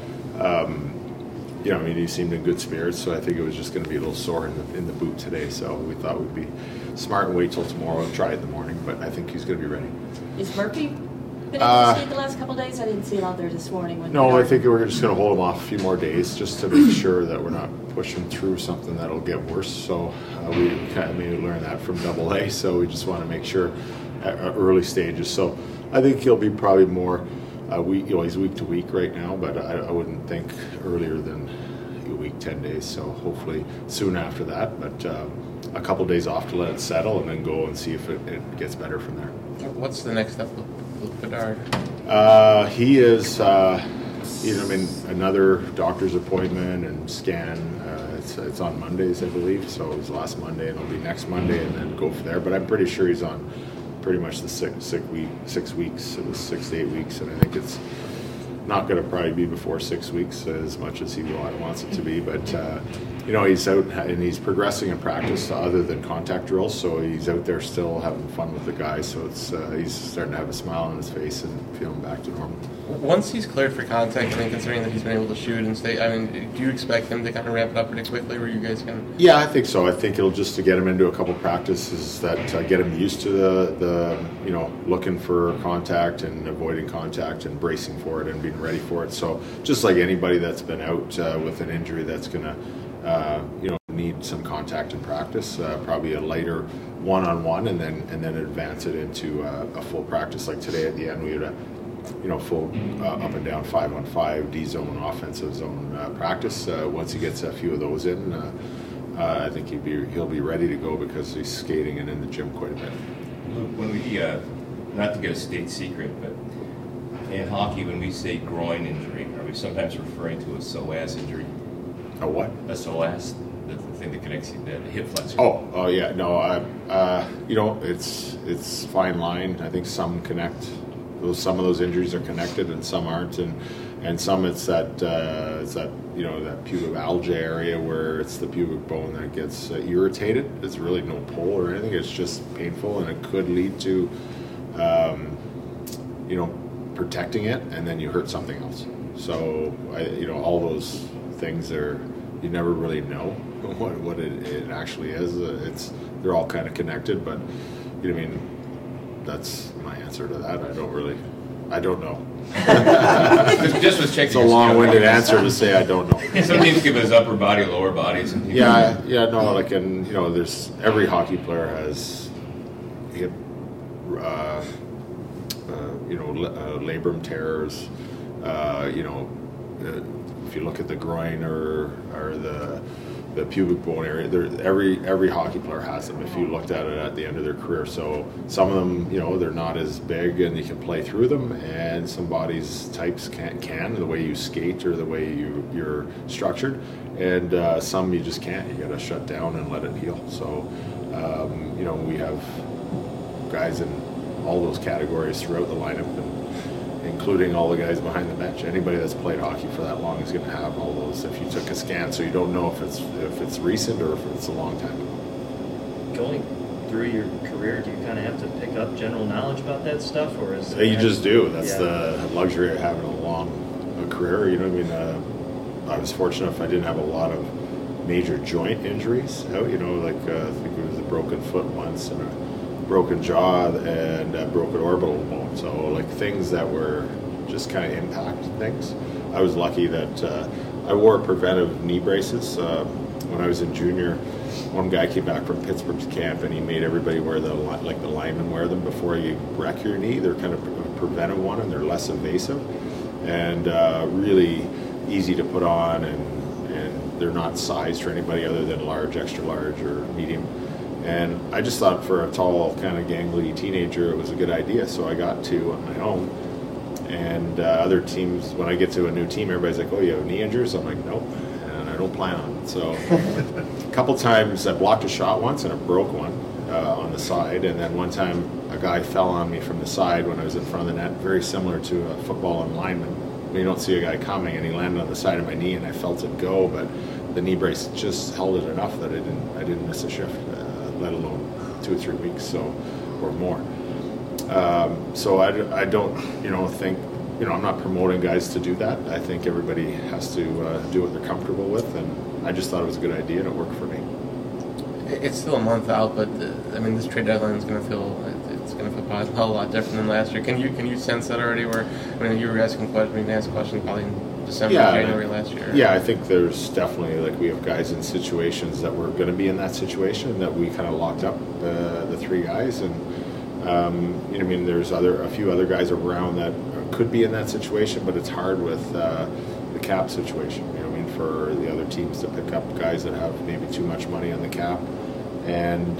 I mean, he seemed in good spirits, so I think it was just going to be a little sore in the boot today. So we thought we'd be smart and wait till tomorrow and try it in the morning, but I think he's going to be ready. Is Murphy been able to skate the last couple of days? I didn't see him out there this morning. No, I think we're just going to hold him off a few more days just to make sure that we're not pushing through something that'll get worse. So we kind of maybe learned that from AA, so we just want to make sure at early stages. So I think he'll be probably more he's week to week right now, but I wouldn't think earlier than a week, 10 days. So hopefully soon after that, but a couple days off to let it settle and then go and see if it gets better from there. What's the next step with Bedard? He is another doctor's appointment and scan. It's on Mondays, I believe. So it's last Monday, and it'll be next Monday, and then go from there. But I'm pretty sure he's on pretty much the 6 weeks. It was 6 to 8 weeks, and I think it's not going to probably be before 6 weeks as much as he wants it to be. But he's out and he's progressing in practice other than contact drills, so he's out there still having fun with the guys. So it's he's starting to have a smile on his face and feeling back to normal. Once he's cleared for contact, I think considering that he's been able to shoot and stay, I mean, do you expect him to kind of ramp it up pretty quickly, or are you guys going to? Yeah, I think so. I think it'll just to get him into a couple practices that get him used to the looking for contact and avoiding contact and bracing for it and being ready for it. So just like anybody that's been out with an injury that's going to need some contact in practice, probably a lighter one-on-one, and then advance it into a full practice. Like today at the end, we had a full up and down 5-on-5 D zone offensive zone practice. Once he gets a few of those in, I think he'll be ready to go because he's skating and in the gym quite a bit. When we not to get a state secret, but in hockey, when we say groin injury, are we sometimes referring to a psoas injury? A what? A psoas, the thing that connects the hip flexor. Oh yeah, no. It's fine line. I think some connect. Some of those injuries are connected, and some aren't, and some it's that pubic area where it's the pubic bone that gets irritated. It's really no pull or anything. It's just painful, and it could lead to protecting it, and then you hurt something else. So all those things you never really know what it actually is. They're all kind of connected, but that's my answer to that. I don't know. Just was checking. It's a long-winded answer to say I don't know. Some teams give us upper body, lower bodies. And there's every hockey player has hip, labrum tears. If you look at the groin or the pubic bone area, every hockey player has them if you looked at it at the end of their career. So some of them, they're not as big and you can play through them, and some bodies types can the way you skate or the way you're structured, and some you just can't. You got to shut down and let it heal. So we have guys in all those categories throughout the lineup, and including all the guys behind the bench. Anybody that's played hockey for that long is going to have all those. If you took a scan, so you don't know if it's recent or if it's a long time ago. Going through your career, do you kind of have to pick up general knowledge about that stuff, or is you just do? That's the luxury of having a long career. I was fortunate if I didn't have a lot of major joint injuries out. I think it was a broken foot once and a broken jaw and a broken orbital bone. So like things that were just kind of impact things. I was lucky that I wore preventive knee braces when I was in junior. One guy came back from Pittsburgh's camp and he made everybody wear the linemen wear them before you wreck your knee. They're kind of a preventive one and they're less invasive and really easy to put on, and they're not sized for anybody other than large, extra large, or medium. And I just thought for a tall, kind of gangly teenager, it was a good idea. So I got two on my own. And other teams, when I get to a new team, everybody's like, "Oh, you have knee injuries?" I'm like, "Nope." And I don't plan on it. So a couple times I blocked a shot once and I broke one on the side, and then one time a guy fell on me from the side when I was in front of the net, very similar to a football lineman. You don't see a guy coming, and he landed on the side of my knee, and I felt it go, but the knee brace just held it enough that I didn't miss a shift, let alone 2 or 3 weeks or more. So I don't think, I'm not promoting guys to do that. I think everybody has to do what they're comfortable with, and I just thought it was a good idea and it worked for me. It's still a month out, but this trade deadline is going to feel probably a lot different than last year. Can you sense that already? Where you were asking questions, asked questions probably in December, January last year. Yeah, I think there's definitely we have guys in situations that we're going to be in that situation that we kind of locked up the 3 guys, and there's a few other guys around that could be in that situation, but it's hard with the cap situation. For the other teams to pick up guys that have maybe too much money on the cap, and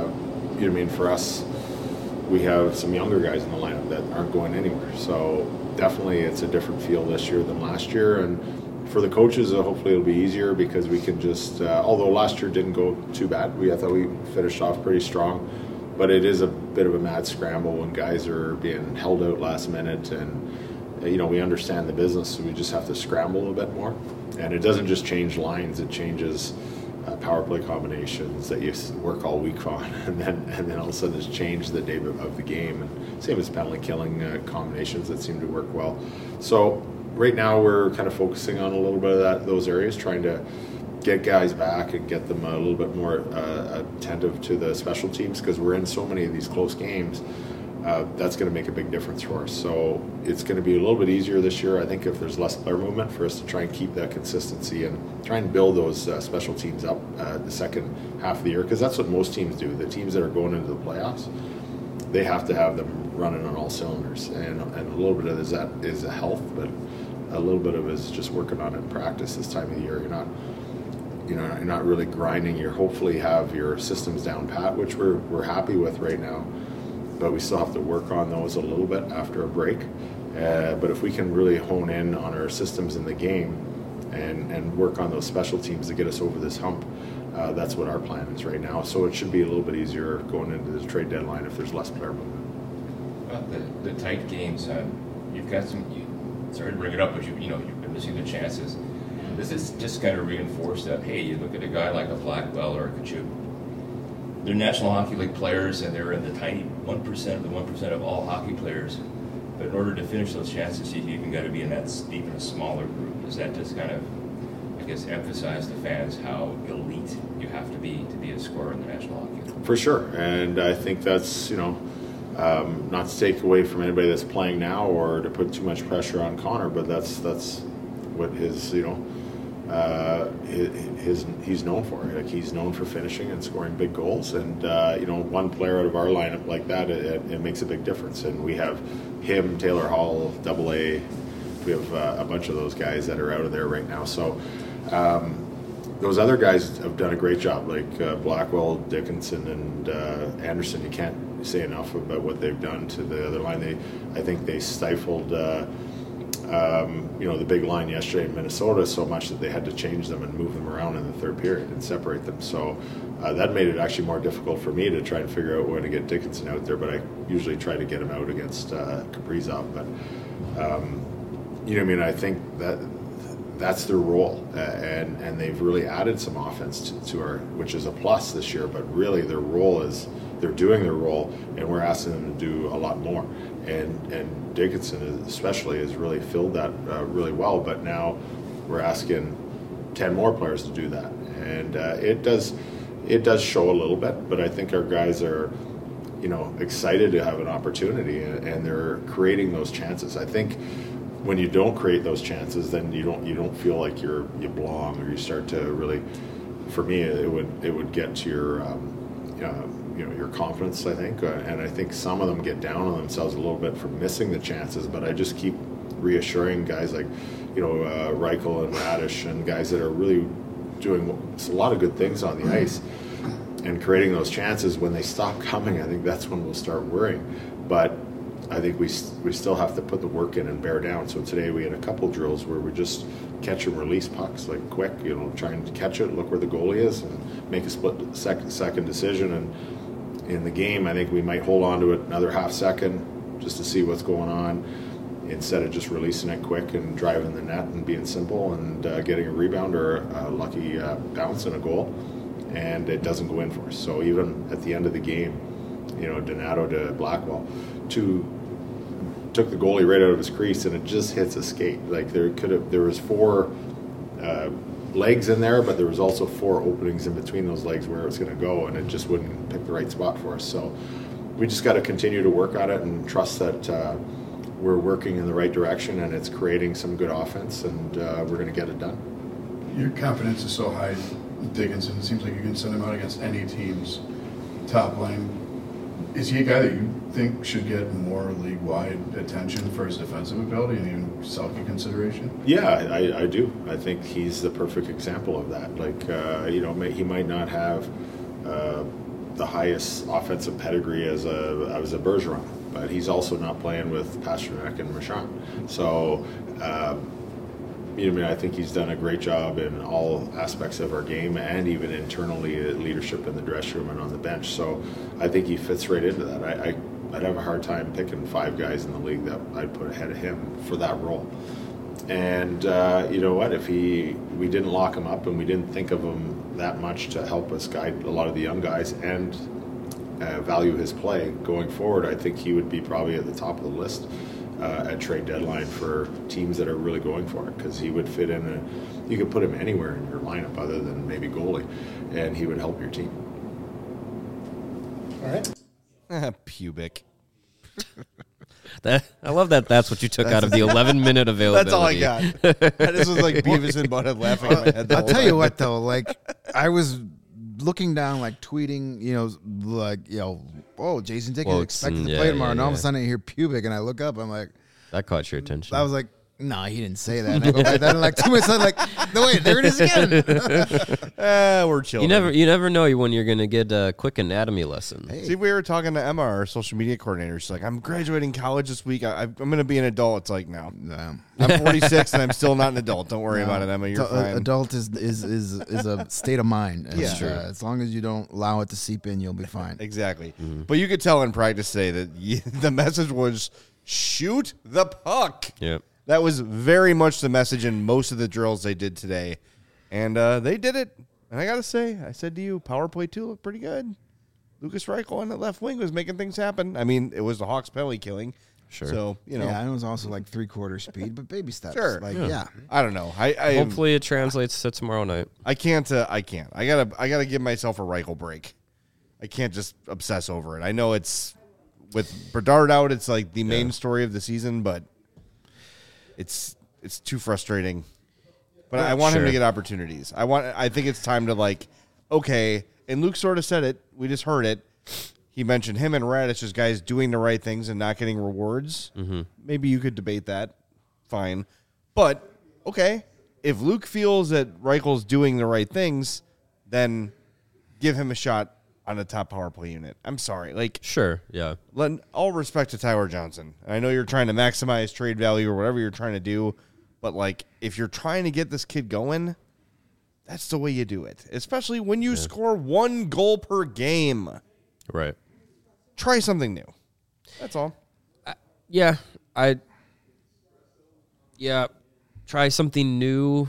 for us, we have some younger guys in the lineup that aren't going anywhere. So definitely, it's a different feel this year than last year, and for the coaches, hopefully it'll be easier because we can just. Although last year didn't go too bad, I thought we finished off pretty strong, but it is a bit of a mad scramble when guys are being held out last minute, and we understand the business, so we just have to scramble a bit more. And it doesn't just change lines; it changes power play combinations that you work all week on, and then all of a sudden it's changed the day of the game. And same as penalty killing combinations that seem to work well. So right now we're kind of focusing on a little bit of those areas, trying to get guys back and get them a little bit more attentive to the special teams, because we're in so many of these close games. That's going to make a big difference for us. So it's going to be a little bit easier this year, I think, if there's less player movement, for us to try and keep that consistency and try and build those special teams up the second half of the year, because that's what most teams do. The teams that are going into the playoffs, they have to have them running on all cylinders, and a little bit of that is a health, but a little bit of it is just working on it in practice this time of the year. You're not really grinding. You hopefully have your systems down pat, which we're happy with right now. But we still have to work on those a little bit after a break. But if we can really hone in on our systems in the game and work on those special teams to get us over this hump, that's what our plan is right now. So it should be a little bit easier going into the trade deadline if there's less player movement. Well, the tight games, you've got some. Sorry to bring it up, but you've been missing the chances. Does this just kind of reinforce that? Hey, you look at a guy like a Blackwell or a Kachuk. They're National Hockey League players, and they're in the tiny 1% of the 1% of all hockey players. But in order to finish those chances, you've even got to be in that even a smaller group. Does that just kind of, emphasize to fans how elite you have to be a scorer in the National Hockey League? For sure, and I think that's not to take away from anybody that's playing now or to put too much pressure on Connor, but that's what his he's known for. He's known for finishing and scoring big goals, and one player out of our lineup like that, it makes a big difference. And we have him, Taylor Hall, AA. We have a bunch of those guys that are out of there right now. So those other guys have done a great job, like Blackwell, Dickinson, and Anderson. You can't say enough about what they've done to the other line. I think they stifled the big line yesterday in Minnesota so much that they had to change them and move them around in the third period and separate them. So that made it actually more difficult for me to try and figure out when to get Dickinson out there, but I usually try to get him out against Kaprizov. But, I think that's their role, and they've really added some offense to our, which is a plus this year, but really their role is, they're doing their role, and we're asking them to do a lot more. And Dickinson especially has really filled that really well, but now we're asking 10 more players to do that. And it does show a little bit, but I think our guys are, excited to have an opportunity, and they're creating those chances. I think when you don't create those chances, then you don't feel like you belong, or you start to really, for me, it would get to your your confidence, I think, and I think some of them get down on themselves a little bit for missing the chances, but I just keep reassuring guys like Reichel and Radish, and guys that are really doing a lot of good things on the ice and creating those chances. When they stop coming, I think that's when we'll start worrying. But I think we still have to put the work in and bear down. So today we had a couple drills where we just catch and release pucks like quick, trying to catch it, look where the goalie is, and make a split second decision. And in the game, I think we might hold on to it another half second just to see what's going on, instead of just releasing it quick and driving the net and being simple and getting a rebound or a lucky bounce and a goal, and it doesn't go in for us. So even at the end of the game, Donato to Blackwell, took the goalie right out of his crease, and it just hits a skate. Like there was 4 legs in there, but there was also 4 openings in between those legs where it was going to go, and it just wouldn't pick the right spot for us. So we just got to continue to work on it and trust that we're working in the right direction, and it's creating some good offense, and we're going to get it done. Your confidence is so high, Dickinson. It seems like you can send him out against any team's top line. Is he a guy that you think should get more league-wide attention for his defensive ability and even Selke consideration? Yeah, I do. I think he's the perfect example of that. Like, he might not have the highest offensive pedigree as a Bergeron, but he's also not playing with Pasternak and Marchand. So, I think he's done a great job in all aspects of our game, and even internally, leadership in the dressing room and on the bench. So I think he fits right into that. I'd have a hard time picking 5 guys in the league that I'd put ahead of him for that role. And you know what? If we didn't lock him up and we didn't think of him that much to help us guide a lot of the young guys and value his play going forward, I think he would be probably at the top of the list at trade deadline for teams that are really going for it, because he would fit in. You could put him anywhere in your lineup other than maybe goalie, and he would help your team. All right. Pubic. I love that. That's what you took out of the 11-minute availability. That's all I got. I just was like Beavis and Butthead laughing in my head. I'll tell you what, though. Like, I was looking down, like tweeting, oh, Jason Dickens expected to play tomorrow, and all of a sudden I hear pubic, and I look up, I'm like, that caught your attention. I was like, no, he didn't say that. And I go back down, and like 2 minutes, I'm like, no, wait, there it is again. We're chilling. You never know when you're gonna get a quick anatomy lesson. Hey. See, we were talking to Emma, our social media coordinator. She's like, I'm graduating college this week. I'm going to be an adult. It's like, no. I'm 46 and I'm still not an adult. Don't worry about it, Emma. You're fine. Adult is a state of mind. And, yeah, as long as you don't allow it to seep in, you'll be fine. Exactly. Mm-hmm. But you could tell in practice today that the message was shoot the puck. Yep. That was very much the message in most of the drills they did today. And they did it. And I got to say, I said to you, power play 2 looked pretty good. Lucas Reichel on the left wing was making things happen. I mean, it was the Hawks penalty killing. Sure. So, Yeah, and it was also like 3/4 speed, but baby steps. Sure. Like, I don't know. Hopefully it translates to tomorrow night. I can't. I gotta give myself a Reichel break. I can't just obsess over it. I know it's with Bedard out, it's like the main story of the season, but it's too frustrating. But I want him to get opportunities. I think it's time to okay. And Luke sort of said it. We just heard it. He mentioned him and Radich as guys doing the right things and not getting rewards. Mm-hmm. Maybe you could debate that. Fine. But, okay, if Luke feels that Reichel's doing the right things, then give him a shot on the top power play unit. I'm sorry. Sure, yeah. All respect to Tyler Johnson. I know you're trying to maximize trade value or whatever you're trying to do, but, if you're trying to get this kid going, that's the way you do it, especially when you score 1 goal per game. Right. Try something new. That's all. Try something new.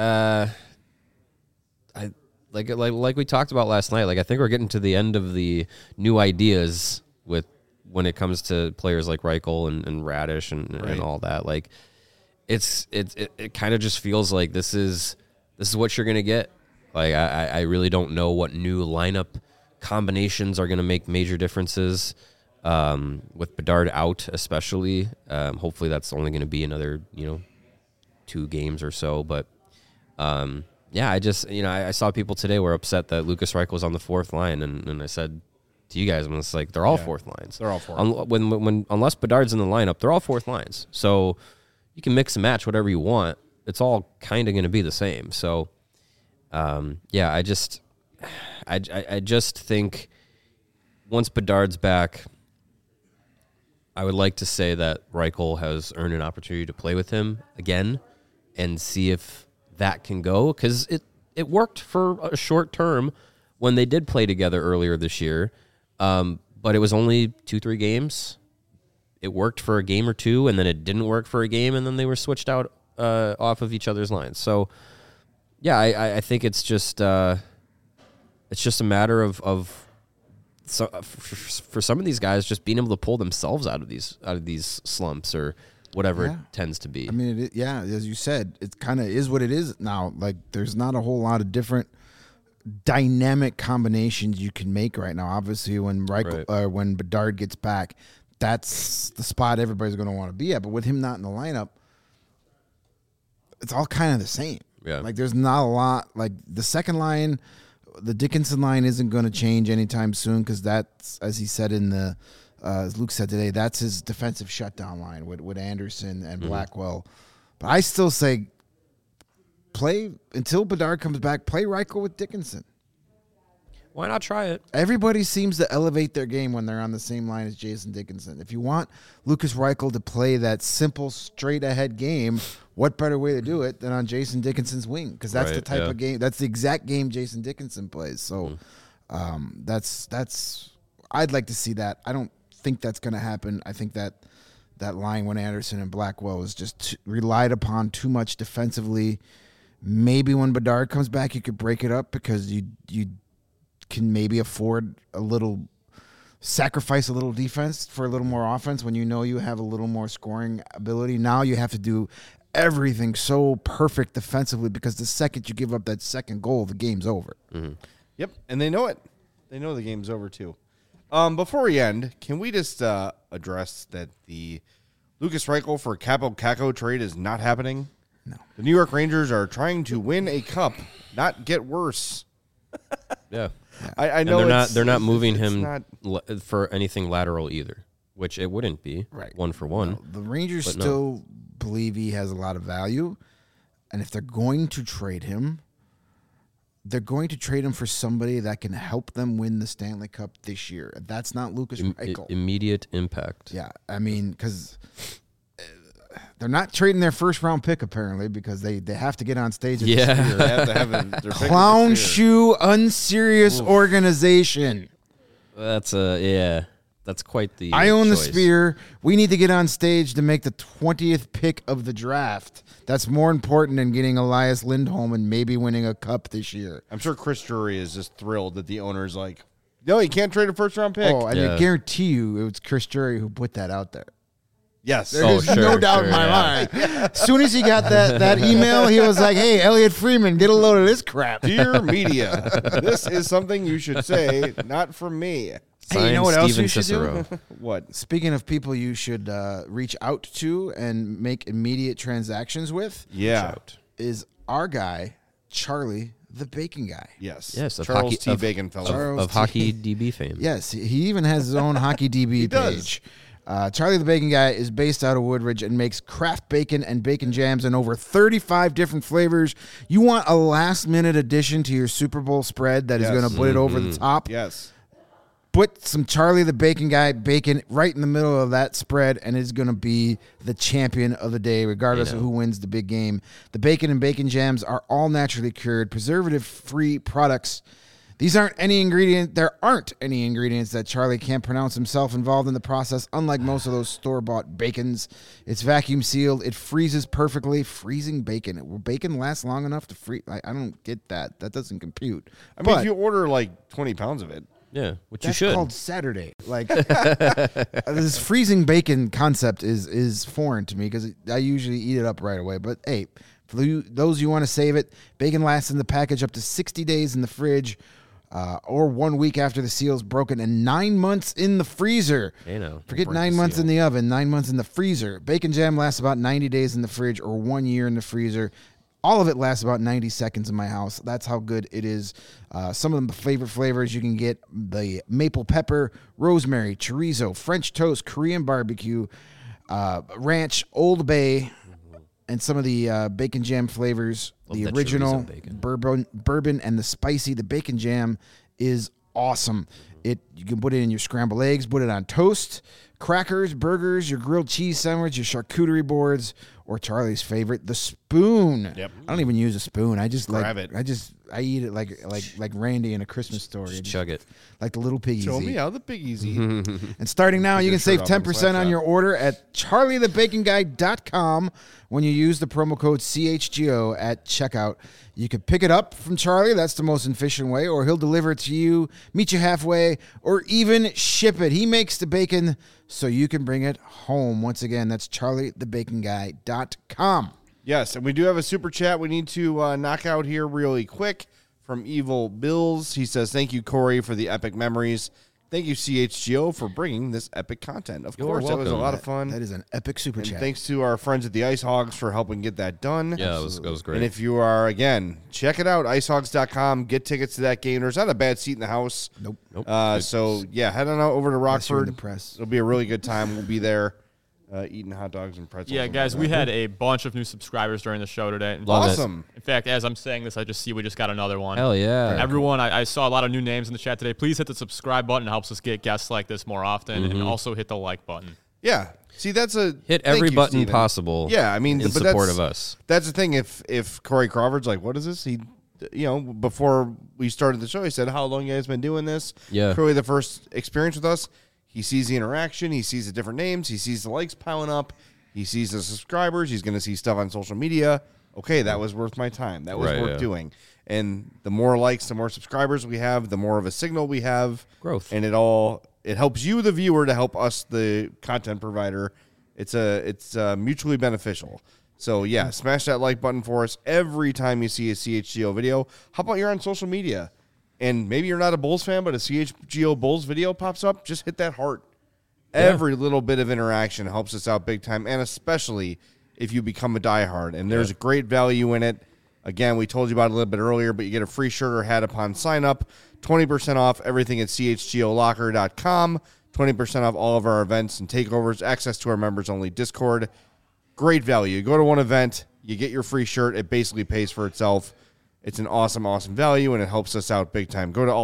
Like we talked about last night. I think we're getting to the end of the new ideas when it comes to players like Reichel and Radich and all that. It kind of just feels like this is what you're gonna get. I really don't know what new lineup combinations are going to make major differences with Bedard out, especially. Hopefully that's only going to be another 2 games or so. But I saw people today were upset that Lucas Reichel was on the 4th line, and I said to you guys, it's like they're all 4th lines. They're all 4th. Unless Bedard's in the lineup, they're all 4th lines. So you can mix and match whatever you want. It's all kind of going to be the same. So I just think once Bedard's back, I would like to say that Reichel has earned an opportunity to play with him again and see if that can go, because it worked for a short term when they did play together earlier this year, but it was only 2-3 games. It worked for a game or two, and then it didn't work for a game, and then they were switched out off of each other's lines. So, yeah, I think it's just a matter of for some of these guys just being able to pull themselves out of these slumps or whatever it tends to be. I mean, as you said, it kind of is what it is now. Like, there's not a whole lot of different dynamic combinations you can make right now. Obviously, when when Bedard gets back, that's the spot everybody's going to want to be at. But with him not in the lineup, it's all kind of the same. Yeah. Like, there's not a lot. Like, the second line, the Dickinson line isn't going to change anytime soon, because that's, as he said as Luke said today, that's his defensive shutdown line with Anderson and Blackwell. But I still say play until Bedard comes back. Play Reichel with Dickinson. Why not try it? Everybody seems to elevate their game when they're on the same line as Jason Dickinson. If you want Lucas Reichel to play that simple, straight-ahead game, what better way to do it than on Jason Dickinson's wing? Because that's the type of game. That's the exact game Jason Dickinson plays. So that's. I'd like to see that. I don't think that's going to happen. I think that line when Anderson and Blackwell is just relied upon too much defensively. Maybe when Bedard comes back, you could break it up, because you can maybe afford sacrifice a little defense for a little more offense when you know you have a little more scoring ability. Now you have to do everything so perfect defensively, because the second you give up that second goal, the game's over. Mm-hmm. Yep, and they know it. They know the game's over too. Before we end, can we just address that the Lucas Reichel for Capo Caco trade is not happening? No. The New York Rangers are trying to win a cup, not get worse. Yeah. I know they're not moving him for anything lateral either, which it wouldn't be one for one. No, the Rangers still believe he has a lot of value, and if they're going to trade him, they're going to trade him for somebody that can help them win the Stanley Cup this year. That's not Lucas Reichel. Immediate impact. Yeah, I mean, because they're not trading their first-round pick, apparently, because they have to get on stage. At they have to have their clown shoe, unserious organization. That's quite the I own choice. the Spear. We need to get on stage to make the 20th pick of the draft. That's more important than getting Elias Lindholm and maybe winning a cup this year. I'm sure Chris Drury is just thrilled that the owner's like, no, you can't trade a first-round pick. Oh, and I guarantee you it was Chris Drury who put that out there. Yes. There's no doubt in my mind. As soon as he got that email, he was like, hey, Elliot Freeman, get a load of this crap. Dear media, this is something you should say, not from me. Hey, you know what else you should do? What? Speaking of people you should reach out to and make immediate transactions with, is our guy, Charlie the Bacon Guy. Yes. Yes, of Charles hockey, T. Bacon fellow. of Hockey DB fame. Yes, he even has his own Hockey DB page. Charlie the Bacon Guy is based out of Woodridge and makes craft bacon and bacon jams in over 35 different flavors. You want a last-minute addition to your Super Bowl spread that is going to put it over the top? Yes. Put some Charlie the Bacon Guy bacon right in the middle of that spread, and it's going to be the champion of the day, regardless of who wins the big game. The bacon and bacon jams are all naturally cured, preservative-free products. There aren't any ingredients that Charlie can't pronounce himself involved in the process, unlike most of those store-bought bacons. It's vacuum sealed. It freezes perfectly. Freezing bacon. Will bacon last long enough to freeze? I don't get that. That doesn't compute. I mean, if you order like 20 pounds of it. Yeah, which that's you should. Called Saturday. Like this freezing bacon concept is foreign to me because I usually eat it up right away. But hey, for those you want to save it, bacon lasts in the package up to 60 days in the fridge, or 1 week after the seal's broken, and 9 months in the freezer. Forget 9 months in the oven, 9 months in the freezer. Bacon jam lasts about 90 days in the fridge or 1 year in the freezer. All of it lasts about 90 seconds in my house. That's how good it is. Some of the favorite flavors you can get: the maple pepper, rosemary, chorizo, French toast, Korean barbecue, ranch, Old Bay, and some of the bacon jam flavors. The original bourbon and the spicy. The bacon jam is awesome. You can put it in your scrambled eggs, put it on toast, crackers, burgers, your grilled cheese sandwich, your charcuterie boards, or Charlie's favorite, the spoon. Yep. I don't even use a spoon. I just Grab it. I eat it like Randy in A Christmas Story. Just chug it. Like the little piggies Show eat. me how the piggies eat. And starting now, you your can save shirt off on 10% on Slapshot. your order at charliethebaconguy.com when you use the promo code CHGO at checkout. You can pick it up from Charlie. That's the most efficient way. Or he'll deliver it to you, meet you halfway, or even ship it. He makes the bacon so you can bring it home. Once again, that's charliethebaconguy.com. Yes, and we do have a super chat we need to knock out here really quick from Evil Bills. He says, thank you, Corey, for the epic memories. Thank you, CHGO, for bringing this epic content. Of course, that was a lot of fun. That is an epic super And chat. thanks to our friends at the Ice Hogs for helping get that done. Yeah, it was great. And if you are, again, check it out, icehogs.com. Get tickets to that game. There's not a bad seat in the house. Nope. So, yeah, head on over to Unless you're in Rockford. the press. It'll be a really good time. We'll be there eating hot dogs and pretzels. Yeah, and guys, we whatnot. had a bunch of new subscribers during the show today. Love it. Awesome. In fact, as I'm saying this, I just see we just got another one. Hell yeah. Everyone, I saw a lot of new names in the chat today. Please hit the subscribe button. It helps us get guests like this more often. And also hit the like button. Yeah. See, that's a Hit thank every you, button Steven. possible. Yeah, I mean, in but support that's- of us. That's the thing. If Corey Crawford's like, what is this? He, before we started the show, he said, how long you guys been doing this? Yeah. Clearly, the first experience with us, he sees the interaction, he sees the different names, he sees the likes piling up, he sees the subscribers, he's going to see stuff on social media. Okay, that was worth my time. That was Right, worth yeah. doing. And the more likes, the more subscribers we have, the more of a signal we have. Growth. And it helps you, the viewer, to help us, the content provider. It's mutually beneficial. So, yeah, smash that like button for us every time you see a CHGO video. How about you're on social media and maybe you're not a Bulls fan, but a CHGO Bulls video pops up? Just hit that heart. Yeah. Every little bit of interaction helps us out big time, and especially if you become a diehard. And there's great value in it. Again, we told you about it a little bit earlier, but you get a free shirt or hat upon sign up, 20% off everything at chgolocker.com, 20% off all of our events and takeovers, access to our members-only Discord. Great value. You go to one event, you get your free shirt. It basically pays for itself. It's an awesome, awesome value, and it helps us out big time. Go to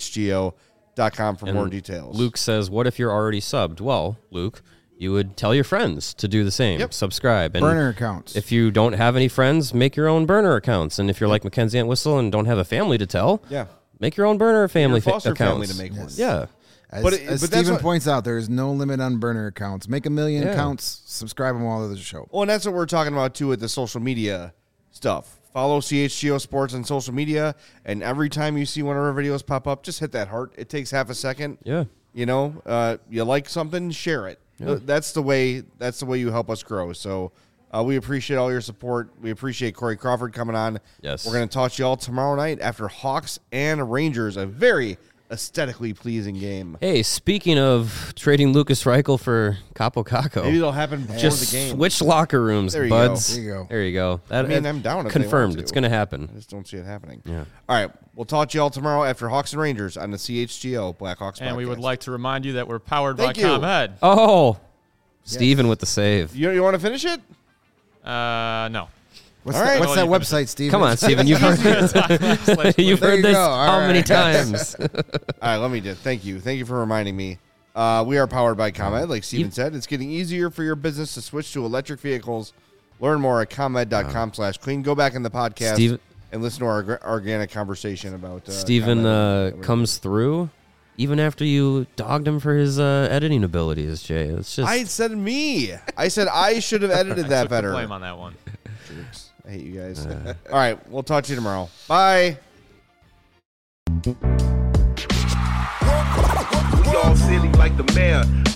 allchgo.com for more details. Luke says, what if you're already subbed? Well, Luke, you would tell your friends to do the same. Yep. Subscribe. And Burner accounts. If you don't have any friends, make your own burner accounts. And if you're like Mackenzie Entwistle and don't have a family to tell, Yeah. make your own burner family Your foster accounts. family to make one. Yeah. As, But as that's Steven what- points out, there is no limit on burner accounts. Make 1 million Yeah. accounts, subscribe them all to the show. Well, and that's what we're talking about, too, with the social media stuff. Follow CHGO Sports on social media, and every time you see one of our videos pop up, just hit that heart. It takes half a second. Yeah. You know, you like something, share it. Yeah. That's the way you help us grow. So we appreciate all your support. We appreciate Corey Crawford coming on. Yes. We're going to talk to you all tomorrow night after Hawks and Rangers, a very aesthetically pleasing game. Hey, speaking of trading Lucas Reichel for Capo Caco, Maybe it'll happen before just the game. switch locker rooms, There you buds. go. There you go. There you go. That, I mean, I'm down if they want confirmed. to. It's going to happen. I just don't see it happening. Yeah. All right. We'll talk to you all tomorrow after Hawks and Rangers on the CHGO Blackhawks And we would podcast. like to remind you that we're powered Thank by you. ComEd. Oh, Steven with the save. You want to finish it? No. What's, All right. what's that Well, you website, Steven? Come on, Steven. You've heard, you've There heard you this go. All how many right. times? All right, let me do it. Thank you. Thank you for reminding me. We are powered by ComEd. Like Steven said, it's getting easier for your business to switch to electric vehicles. Learn more at ComEd.com/clean. Go back in the podcast Steven- and listen to our organic conversation about Steven ComEd. comes through even after you dogged him for his editing abilities, Jay. It's just I said me. I said I should have edited that Took the better. blame on that one. Jerks. I hate you guys. All right, we'll talk to you tomorrow. Bye. We all silly like the mayor.